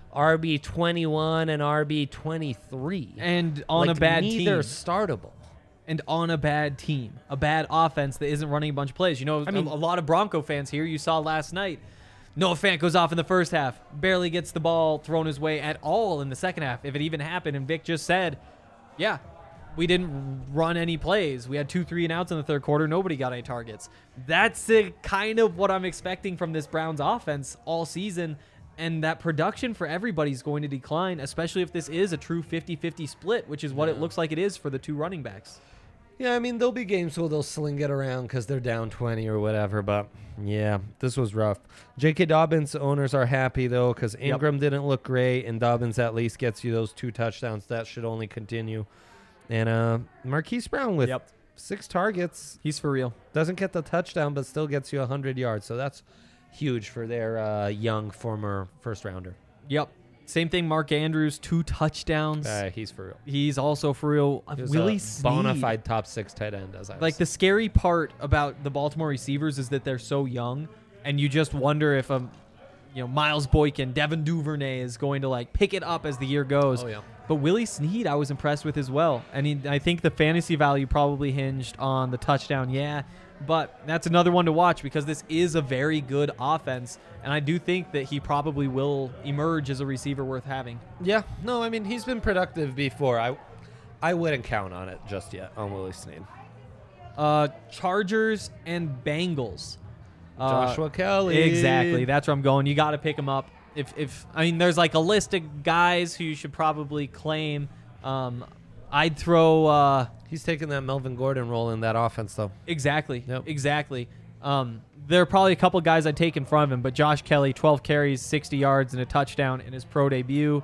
RB21 and RB23. and on like, a bad neither team. startable. And on a bad team, a bad offense that isn't running a bunch of plays. You know, I mean- a lot of Bronco fans here, you saw last night, Noah Fant goes off in the first half, barely gets the ball thrown his way at all in the second half, if it even happened. And Vic just said, yeah, we didn't run any plays. We had 2 3-and-outs in the third quarter. Nobody got any targets. That's kind of what I'm expecting from this Browns offense all season. And that production for everybody's going to decline, especially if this is a true 50-50 split, which is what it looks like it is for the 2 running backs. Yeah, I mean, there'll be games where they'll sling it around because they're down 20 or whatever, but yeah, this was rough. J.K. Dobbins owners are happy, though, because Ingram didn't look great, and Dobbins at least gets you those 2 touchdowns. That should only continue. And Marquise Brown with 6 targets. He's for real. Doesn't get the touchdown, but still gets you 100 yards, so that's huge for their young former first-rounder. Yep. Same thing, Mark Andrews, 2 touchdowns. He's for real. He's also for real. He was Willie a Snead. bona fide top 6 tight end, as I was Like, the scary part about the Baltimore receivers is that they're so young, and you just wonder if Miles Boykin, Devin Duvernay is going to like pick it up as the year goes. Oh, yeah. But Willie Snead, I was impressed with as well. I think the fantasy value probably hinged on the touchdown. Yeah, but that's another one to watch because this is a very good offense, and I do think that he probably will emerge as a receiver worth having. Yeah, no, I mean, he's been productive before. I wouldn't count on it just yet on Willie Snead. Chargers and Bengals. Joshua Kelly. Exactly. That's where I'm going. You got to pick him up. If there's like a list of guys who you should probably claim. I'd throw He's taking that Melvin Gordon role in that offense, though. exactly. Yep. Exactly. There are probably a couple guys I'd take in front of him, but Josh Kelly, 12 carries, 60 yards, and a touchdown in his pro debut.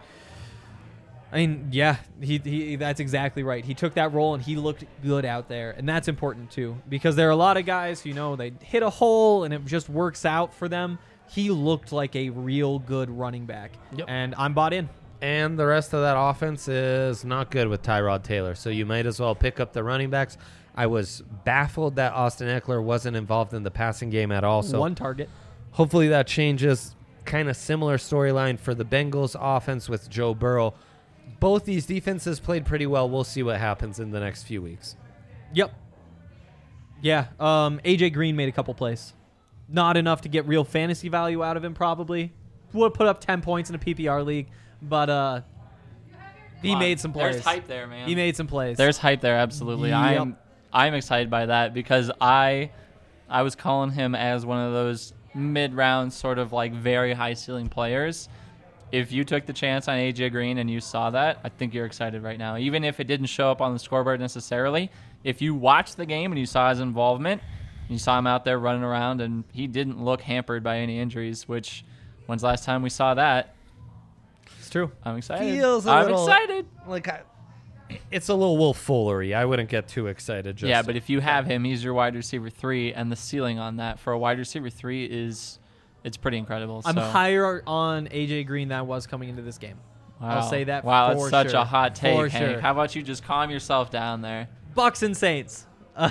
I mean, yeah, he that's exactly right. He took that role and he looked good out there, and that's important too because there are a lot of guys who they hit a hole and it just works out for them. He looked like a real good running back, and I'm bought in. And the rest of that offense is not good with Tyrod Taylor, so you might as well pick up the running backs. I was baffled that Austin Eckler wasn't involved in the passing game at all. So 1 target. hopefully that changes. kind of similar storyline for the Bengals offense with Joe Burrow. Both these defenses played pretty well. We'll see what happens in the next few weeks. Yep. Yeah. AJ Green made a couple plays. Not enough to get real fantasy value out of him, probably. Would put up 10 points in a PPR league, but he made some plays. There's hype there, man. He made some plays. There's hype there, absolutely. Yep. I'm excited by that because I was calling him as one of those mid-round sort of like very high ceiling players. If you took the chance on AJ Green and you saw that, I think you're excited right now. Even if it didn't show up on the scoreboard necessarily, if you watched the game and you saw his involvement, you saw him out there running around and he didn't look hampered by any injuries, which when's the last time we saw that? It's true. I'm excited. I'm excited. Like it's a little Wolf Foolery. I wouldn't get too excited. Yeah, but if you have him, he's your wide receiver 3, and the ceiling on that for a wide receiver 3 it's pretty incredible. I'm so. higher on AJ Green than I was coming into this game. Wow. I'll say that. Wow, for that's such sure. a hot take, For Hank. sure. How about you just calm yourself down there? Bucks and Saints.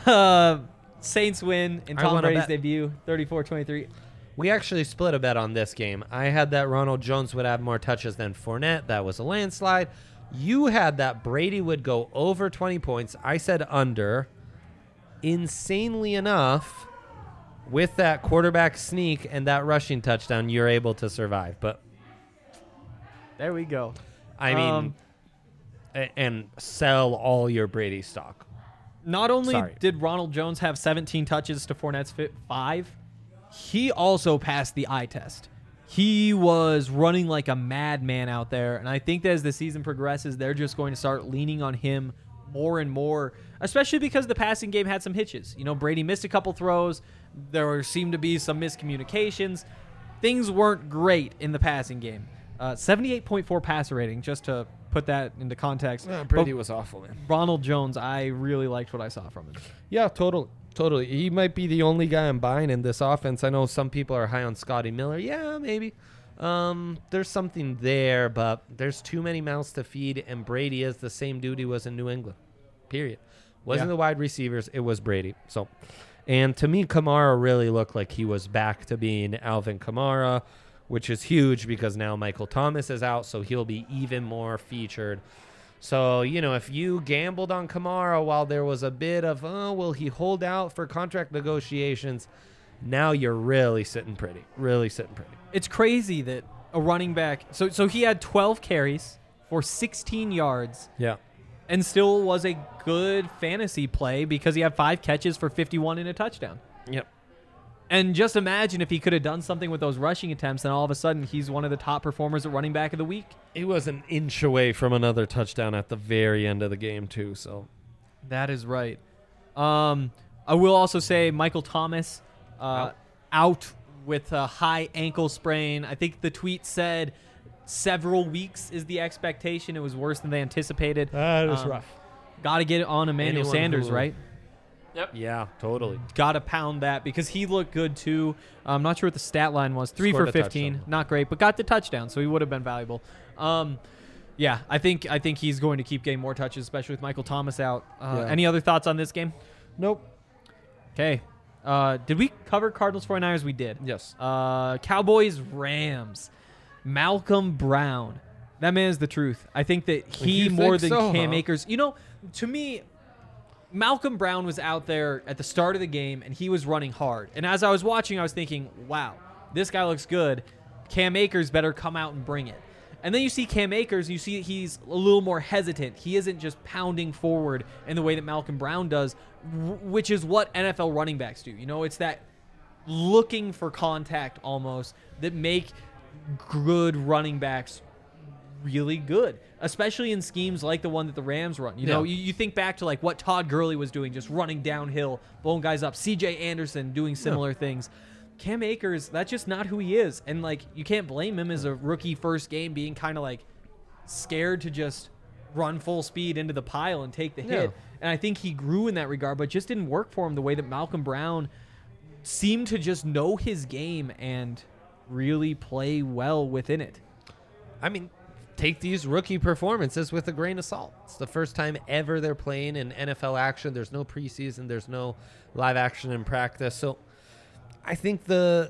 Saints win in I Tom wanna Brady's bet. debut, 34-23. We actually split a bet on this game. I had that Ronald Jones would have more touches than Fournette. That was a landslide. You had that Brady would go over 20 points. I said under. Insanely enough, with that quarterback sneak and that rushing touchdown, you're able to survive. But There we go. I mean, and sell all your Brady stock. Not only Sorry. did Ronald Jones have 17 touches to Fournette's 5, he also passed the eye test. He was running like a madman out there, and I think that as the season progresses, they're just going to start leaning on him more and more, especially because the passing game had some hitches. You know, Brady missed a couple throws. There seemed to be some miscommunications. Things weren't great in the passing game. 78.4 passer rating, just to put that into context. Brady But was awful, man. Ronald Jones, I really liked what I saw from him. Yeah, totally. He might be the only guy I'm buying in this offense. I know some people are high on Scotty Miller. Yeah, maybe. There's something there, but there's too many mouths to feed, and Brady is the same dude he was in New England. Period. Wasn't the wide receivers, it was Brady. So, and to me, Kamara really looked like he was back to being Alvin Kamara, which is huge because now Michael Thomas is out, so he'll be even more featured. So, you know, if you gambled on Kamara while there was a bit of, will he hold out for contract negotiations, now you're really sitting pretty. It's crazy that a running back, so he had 12 carries for 16 yards Yeah. and still was a good fantasy play because he had 5 catches for 51 and a touchdown. Yep. And just imagine if he could have done something with those rushing attempts, and all of a sudden he's one of the top performers at running back of the week. He was an inch away from another touchdown at the very end of the game, too. So That is right. I will also say Michael Thomas out with a high ankle sprain. I think the tweet said several weeks is the expectation. It was worse than they anticipated. that is rough. Got to get it on Emmanuel Anyone Sanders, who- right? Yeah, totally. Got to pound that because he looked good too. I'm not sure what the stat line was. 3 Scored for a 15, touchdown. not great, but got the touchdown, so he would have been valuable. Yeah, I think he's going to keep getting more touches, especially with Michael Thomas out. Any other thoughts on this game? Nope. Okay. Did we cover Cardinals 49ers? We did. Yes. Cowboys Rams. Malcolm Brown. That man is the truth. I think that he You more think than so, Cam huh? Akers. You know, to me, Malcolm Brown was out there at the start of the game and he was running hard. And as I was watching, I was thinking, wow, this guy looks good. Cam Akers better come out and bring it. And then you see Cam Akers, and you see he's a little more hesitant. He isn't just pounding forward in the way that Malcolm Brown does, which is what NFL running backs do. You know, it's that looking for contact almost that make good running backs really good, especially in schemes like the one that the Rams run. You know, you think back to like what Todd Gurley was doing, just running downhill, blowing guys up. CJ Anderson doing similar things. Cam Akers, that's just not who he is. And like, you can't blame him as a rookie first game being kind of like scared to just run full speed into the pile and take the hit. And I think he grew in that regard, but just didn't work for him the way that Malcolm Brown seemed to just know his game and really play well within it. I mean, take these rookie performances with a grain of salt. It's the first time ever they're playing in NFL action. There's no preseason. There's no live action in practice. So I think the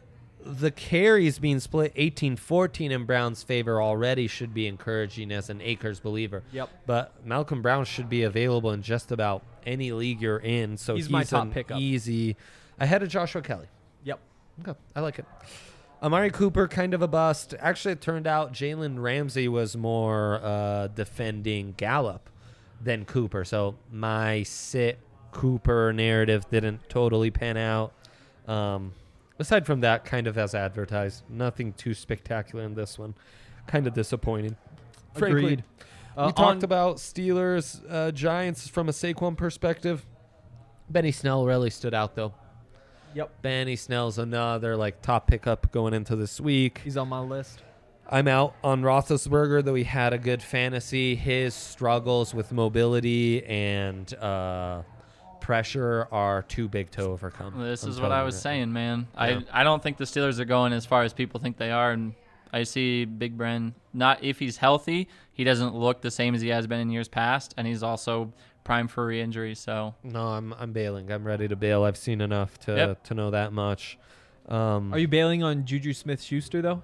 the carries being split 18-14 in Brown's favor already should be encouraging as an Akers believer. Yep. But Malcolm Brown should be available in just about any league you're in. So He's my top an pickup. easy ahead of Joshua Kelly. Yep. Okay, I like it. Amari Cooper, kind of a bust. Actually, it turned out Jalen Ramsey was more defending Gallup than Cooper. So my sit Cooper narrative didn't totally pan out. Aside from that, kind of as advertised. Nothing too spectacular in this one. Kind of disappointing. Frankly, Agreed. we talked about Steelers, Giants from a Saquon perspective. Benny Snell really stood out, though. Yep. Benny Snell's another top pickup going into this week. He's on my list. I'm out on Roethlisberger, though he had a good fantasy. His struggles with mobility and pressure are too big to overcome. This I'm is what telling I you was right saying, man. Yeah. I don't think the Steelers are going as far as people think they are, and I see Big Bren. Not if he's healthy, he doesn't look the same as he has been in years past, and he's also prime for re-injury. So No, I'm bailing. I'm ready to bail. I've seen enough to know that much. Are you bailing on Juju Smith-Schuster though?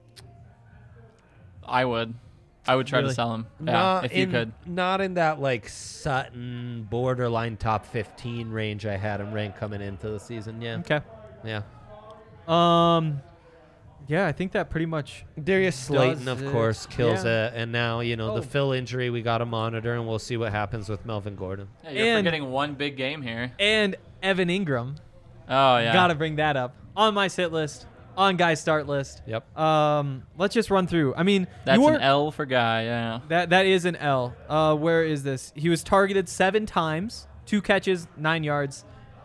I would try to Really? sell him. Yeah, if you could. Not in that Sutton borderline top 15 range I had him ranked coming into the season. Yeah. Okay. Yeah. Yeah, I think that pretty much. Darius Slayton, Does of it. course, kills Yeah. it. And now, Oh. the Phil injury we got to monitor, and we'll see what happens with Melvin Gordon. Yeah, you're And- forgetting one big game here. And Evan Ingram. Oh yeah. Gotta bring that up. On my sit list. On Guy's start list. Yep. Let's just run through. I mean, That's you an weren't- L for Guy. Yeah. That is an L. Where is this? He was targeted 7 times, 2 catches, 9 yards.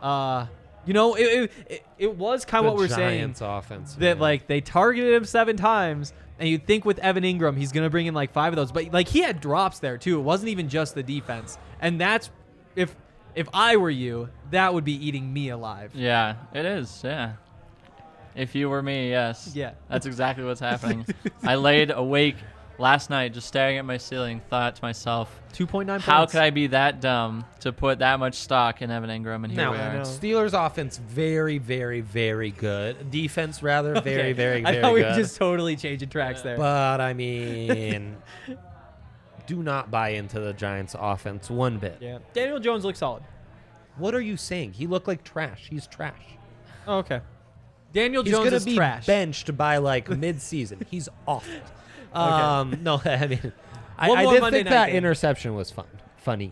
It was kind of what we're saying. Giants offense. That man. they targeted him 7 times, and you'd think with Evan Ingram he's gonna bring in 5 of those, but he had drops there too. It wasn't even just the defense, and that's if I were you, that would be eating me alive. Yeah, it is. Yeah. If you were me, yes. Yeah. That's exactly what's happening. I laid awake last night just staring at my ceiling, thought to myself, 2.9 how points. could I be that dumb to put that much stock in Evan Ingram? And here Now, we I know. are. Steelers offense very, very, very good. Defense rather very, Okay. very, I very thought we good. were just totally changing tracks there. But I mean, do not buy into the Giants offense one bit. Yeah. Daniel Jones looks solid. What are you saying? He looked like trash. He's trash. Oh, okay. Daniel He's Jones gonna is be trash. benched by mid-season. He's awful. Okay. No, I mean, One I more did Monday think night that game. interception was funny.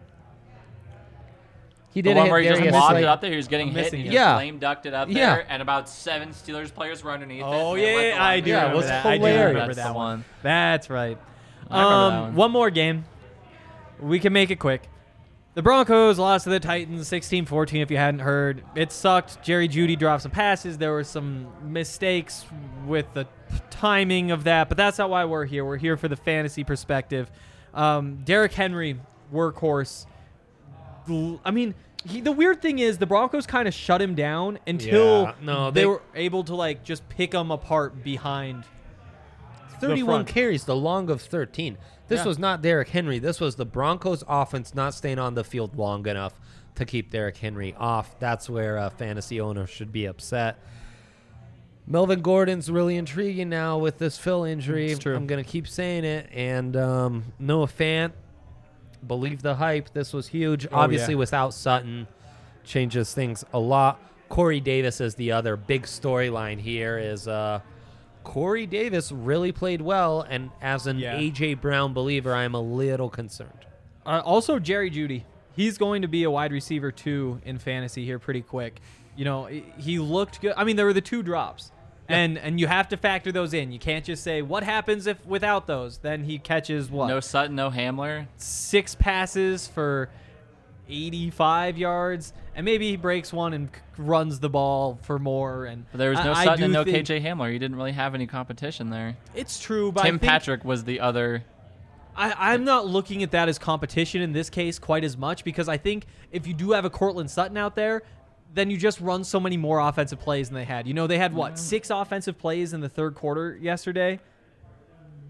He The did one hit where he just Darius lobbed Slayton. it up there, he was getting I'm hit, missing and it. he Yeah. just lame ducked it up Yeah. there, and about 7 Steelers players were underneath it. Oh and they let the yeah, I do lineman- Yeah, it remember was that. I do hilarious. remember That's that the one. one. That's right. I remember that one. One more game. We can make it quick. The Broncos lost to the Titans 16-14 if you hadn't heard. It sucked. Jerry Jeudy dropped some passes. There were some mistakes with the timing of that, but that's not why we're here. We're here for the fantasy perspective. Derrick Henry, workhorse. I mean, the weird thing is the Broncos kind of shut him down until Yeah, no, they they- were able to just pick him apart behind 31 front. carries, the long of 13. This Yeah. was not Derrick Henry. This was the Broncos offense not staying on the field long enough to keep Derrick Henry off. That's where fantasy owners should be upset. Melvin Gordon's really intriguing now with this Phil injury. It's true. I'm going to keep saying it. And Noah Fant, believe the hype. This was huge. Oh, Obviously, yeah. without Sutton, changes things a lot. Corey Davis is the other big storyline here is Corey Davis really played well, and as an Yeah. A.J. Brown believer, I am a little concerned. Also, Jerry Jeudy. He's going to be a wide receiver, too, in fantasy here pretty quick. He looked good. I mean, there were the 2 drops. And you have to factor those in. You can't just say, what happens if without those? Then he catches, what? No Sutton, no Hamler. 6 passes for 85 yards. And maybe he breaks one and runs the ball for more. And But there was no I Sutton do and no think- KJ Hamler. You didn't really have any competition there. It's true, but Tim I think Patrick was the other. I'm not looking at that as competition in this case quite as much because I think if you do have a Cortland Sutton out there, then you just run so many more offensive plays than they had. They had, 6 offensive plays in the third quarter yesterday?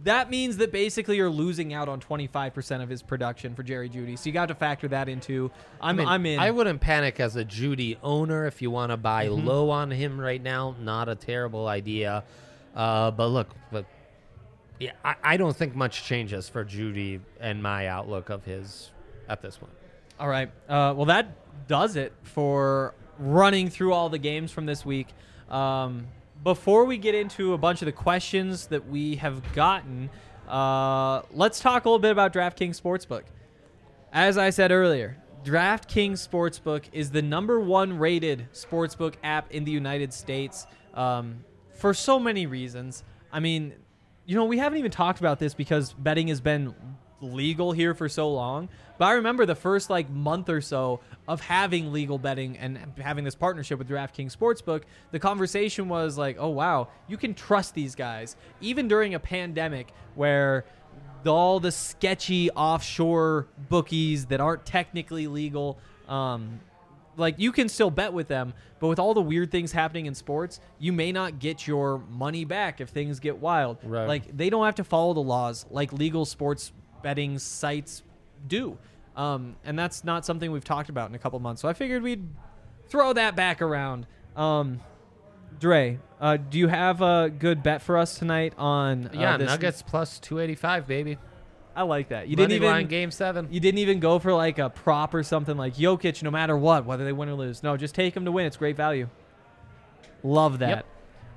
that means that basically you're losing out on 25% of his production for Jerry Jeudy. So you got to factor that into. I'm in. I wouldn't panic as a Jeudy owner if you want to buy low on him right now. Not a terrible idea. But yeah, I don't think much changes for Jeudy and my outlook of his at this point. All right. Well, that does it for running through all the games from this week. Before we get into a bunch of the questions that we have gotten, let's talk a little bit about DraftKings Sportsbook. As I said earlier, DraftKings Sportsbook is the #1 rated sportsbook app in the United States for so many reasons. I mean, we haven't even talked about this because betting has been legal here for so long. But I remember the first month or so of having legal betting and having this partnership with DraftKings Sportsbook, the conversation was like, oh, wow, you can trust these guys. Even during a pandemic where all the sketchy offshore bookies that aren't technically legal, you can still bet with them. But with all the weird things happening in sports, you may not get your money back if things get wild. Right. They don't have to follow the laws like legal sports betting sites do. And that's not something we've talked about in a couple months. So I figured we'd throw that back around. Dre, do you have a good bet for us tonight on this? Nuggets plus 285, baby. I like that. You Money didn't even line game 7. You didn't even go for a prop or something like Jokic, no matter what, whether they win or lose. No, just take them to win. It's great value. Love that.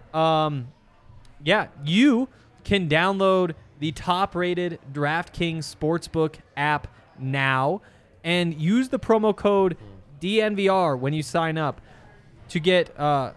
Yep. You can download the top-rated DraftKings Sportsbook app now and use the promo code DNVR when you sign up to get where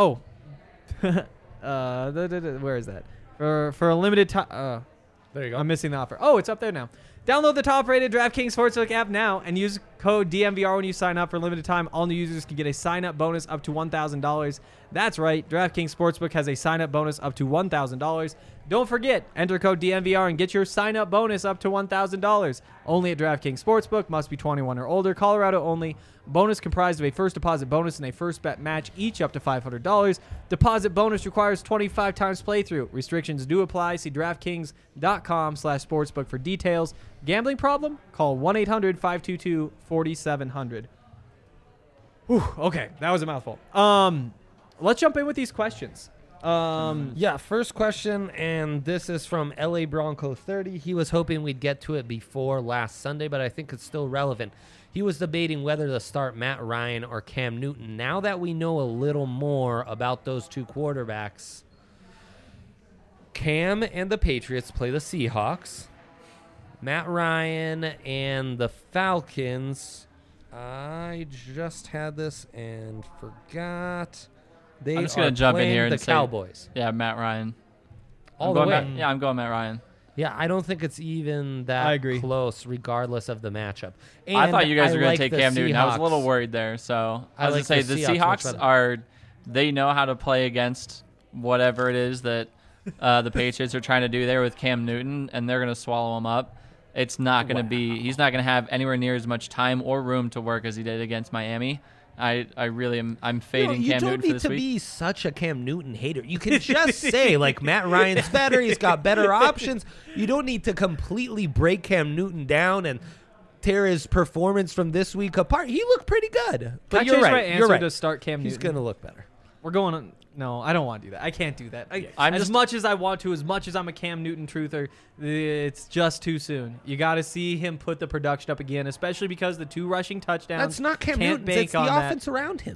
is that? For a limited time. There you go. I'm missing the offer. Oh, it's up there now. Download the top-rated DraftKings Sportsbook app now and use code DNVR when you sign up for a limited time. All new users can get a sign-up bonus up to $1,000. That's right. DraftKings Sportsbook has a sign-up bonus up to $1,000. Don't forget, enter code DNVR and get your sign-up bonus up to $1,000. Only at DraftKings Sportsbook. Must be 21 or older. Colorado only. Bonus comprised of a first deposit bonus and a first bet match, each up to $500. Deposit bonus requires 25 times playthrough. Restrictions do apply. See DraftKings.com/sportsbook for details. Gambling problem? Call 1-800-522-4700. Okay, that was a mouthful. Let's jump in with these questions. First question, and this is from LA Bronco 30. He was hoping we'd get to it before last Sunday, but I think it's still relevant. He was debating whether to start Matt Ryan or Cam Newton. Now that we know a little more about those two quarterbacks, Cam and the Patriots play the Seahawks. Matt Ryan and the Falcons. I just had this and forgot. I'm just going to jump in here and say Cowboys. Yeah, Matt Ryan. All the way. I'm going Matt Ryan. Yeah, I don't think it's even that close, regardless of the matchup. And I thought you guys were going to take Cam Newton. Seahawks. I was a little worried there. So I was going to say the Seahawks they know how to play against whatever it is that the Patriots are trying to do there with Cam Newton, and they're going to swallow him up. It's not going to be. He's not going to have anywhere near as much time or room to work as he did against Miami. I really am. I'm fading Cam Newton for this week. You don't need to be such a Cam Newton hater. You can just say Matt Ryan's better. He's got better options. You don't need to completely break Cam Newton down and tear his performance from this week apart. He looked pretty good. But you're right. My answer to start Cam Newton. He's going to look better. We're going on. No, I don't want to do that. I can't do that. As much as I want to, as much as I'm a Cam Newton truther, it's just too soon. You got to see him put the production up again, especially because the 2 rushing touchdowns. That's not Cam Newton. It's the offense around him.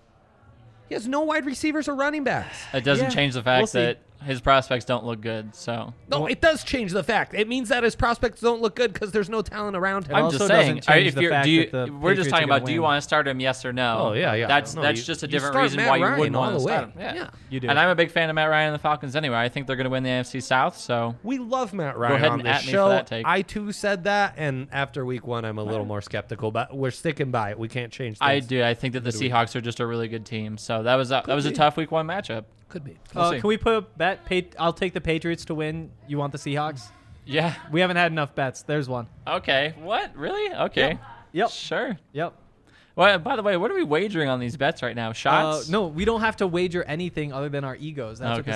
He has no wide receivers or running backs. It doesn't change the fact that his prospects don't look good. So no, it does change the fact. It means that his prospects don't look good because there's no talent around him. I'm just saying. We're just talking about, do you want to start him? Yes or no? Oh yeah. That's just a different reason why you wouldn't want to start him. Yeah, you do. And I'm a big fan of Matt Ryan and the Falcons anyway. I think they're going to win the NFC South. So we love Matt Ryan. Go ahead on and this at me show. for that take. I too said that, and after week 1, I'm a little more skeptical, but we're sticking by it. We can't change things. I do. I think that the Seahawks are just a really good team. So that was a tough week 1 matchup. Could be. Can we put a bet? I'll take the Patriots to win. You want the Seahawks? Yeah. We haven't had enough bets. There's one. Okay. What? Really? Okay. Yep. Sure. Yep. Well, by the way, what are we wagering on these bets right now? Shots? No, we don't have to wager anything other than our egos. That's what this is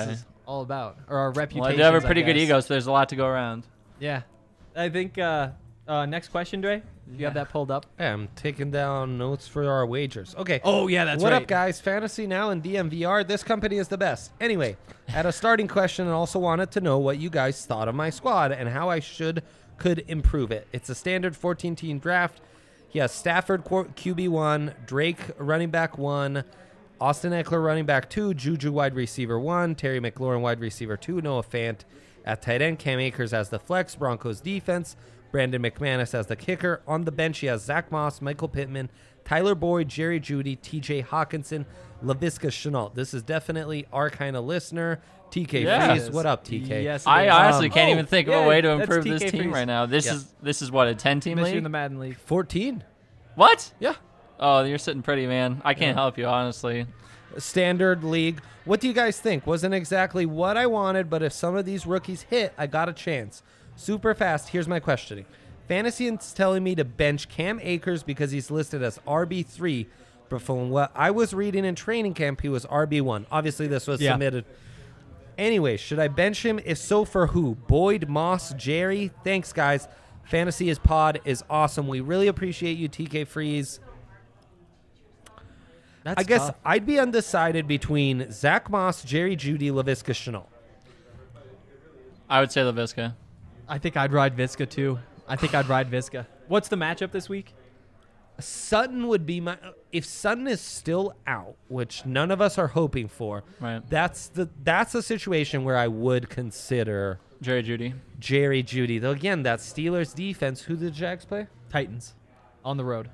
all about, or our reputation. Well, I do have a pretty good ego, so there's a lot to go around. Yeah, I think next question, Dre. Do you have that pulled up? Yeah, I'm taking down notes for our wagers. Okay. Oh yeah, that's what right. up, guys? Fantasy Now and DMVR. This company is the best. Anyway, I had a starting question and also wanted to know what you guys thought of my squad and how I could improve it. It's a standard 14-team draft. He has Stafford QB1, Drake running back 1, Austin Eckler running back 2, Juju wide receiver 1, Terry McLaurin wide receiver 2, Noah Fant at tight end, Cam Akers as the flex, Broncos defense, Brandon McManus as the kicker. On the bench, he has Zach Moss, Michael Pittman, Tyler Boyd, Jerry Jeudy, TJ Hawkinson, Laviska Shenault. This is definitely our kind of listener. TK Yeah. Freeze. What up, TK? Yes, it I is. honestly can't even think of a way to that's improve TK this team Freeze. right now. This is what, a 10-team Miss you in league? the Madden League. 14. What? Yeah. Oh, you're sitting pretty, man. I can't Yeah. help you, honestly. Standard league. What do you guys think? Wasn't exactly what I wanted, but if some of these rookies hit, I got a chance. Super fast. Here's my questioning. Fantasy is telling me to bench Cam Akers because he's listed as RB3, but from what I was reading in training camp, he was RB1. Obviously, this was submitted. Anyway, should I bench him? If so, for who? Boyd, Moss, Jerry? Thanks, guys. Fantasy is pod is awesome. We really appreciate you, TK Freeze. That's I guess tough. I'd be undecided between Zach Moss, Jerry Jeudy, Laviska Shenault. I would say LaVisca. I think I'd ride Visca too. I think I'd ride Visca. What's the matchup this week? Sutton would be my. If Sutton is still out, which none of us are hoping for, Right. that's a situation where I would consider Jerry Jeudy. Jerry Jeudy. Though again, that Steelers defense. Who did the Jags play? Titans on the road.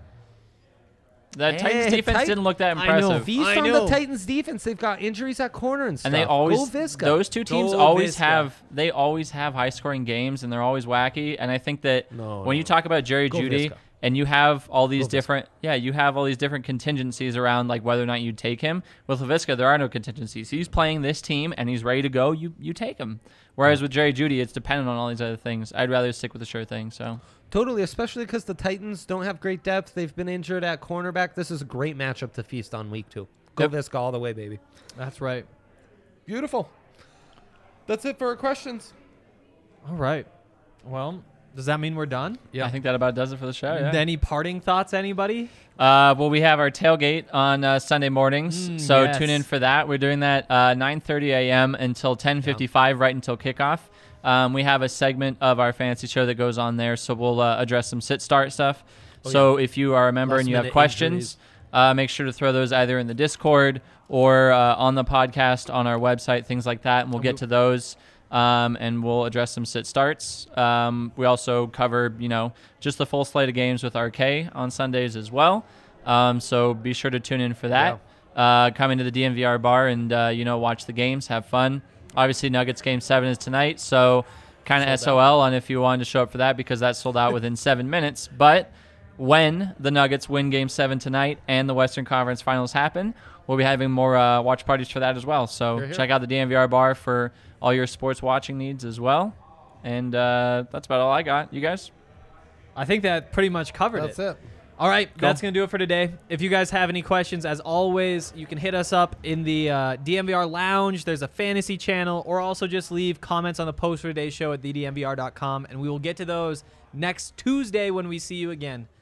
That Titans defense didn't look that I know. impressive. Feast I on know. the Titans defense. They've got injuries at corner and stuff. And they always Go Visca. those two teams Go always Visca. have high scoring games, and they're always wacky. And I think that No, when no. you talk about Jerry Go Jeudy Visca. and you have all these Go Visca. different you have all these different contingencies around like whether or not you take him. With LaVisca, there are no contingencies. He's playing this team and he's ready to go. You take him. Whereas with Jerry Jeudy, it's dependent on all these other things. I'd rather stick with the sure thing. So Totally, especially because the Titans don't have great depth. They've been injured at cornerback. This is a great matchup to feast on week 2. Go Yep. Visca all the way, baby. That's right. Beautiful. That's it for our questions. All right. Well, does that mean we're done? I think that about does it for the show. Yeah. Any parting thoughts, anybody? Well, we have our tailgate on Sunday mornings, so yes. tune in for that. We're doing that 9:30 a.m. until 10:55, right until kickoff. We have a segment of our fantasy show that goes on there, so we'll address some sit-start stuff. So if you are a member and you have Last-minute questions, make sure to throw those either in the Discord or on the podcast on our website, things like that, and we'll get to those. And we'll address some sit-starts. We also cover, just the full slate of games with RK on Sundays as well. So be sure to tune in for that. Come into the DMVR bar and, watch the games, have fun. Obviously, Nuggets Game 7 is tonight, so kind of SOL on if you wanted to show up for that because that sold out within 7 minutes. But when the Nuggets win Game 7 tonight and the Western Conference Finals happen, we'll be having more watch parties for that as well. So check out the DMVR bar for all your sports watching needs as well. And that's about all I got. You guys? I think that pretty much covered That's it. it. All right, that's going to do it for today. If you guys have any questions, as always, you can hit us up in the DMVR Lounge. There's a fantasy channel, or also just leave comments on the post for today's show at thedmvr.com, and we will get to those next Tuesday when we see you again.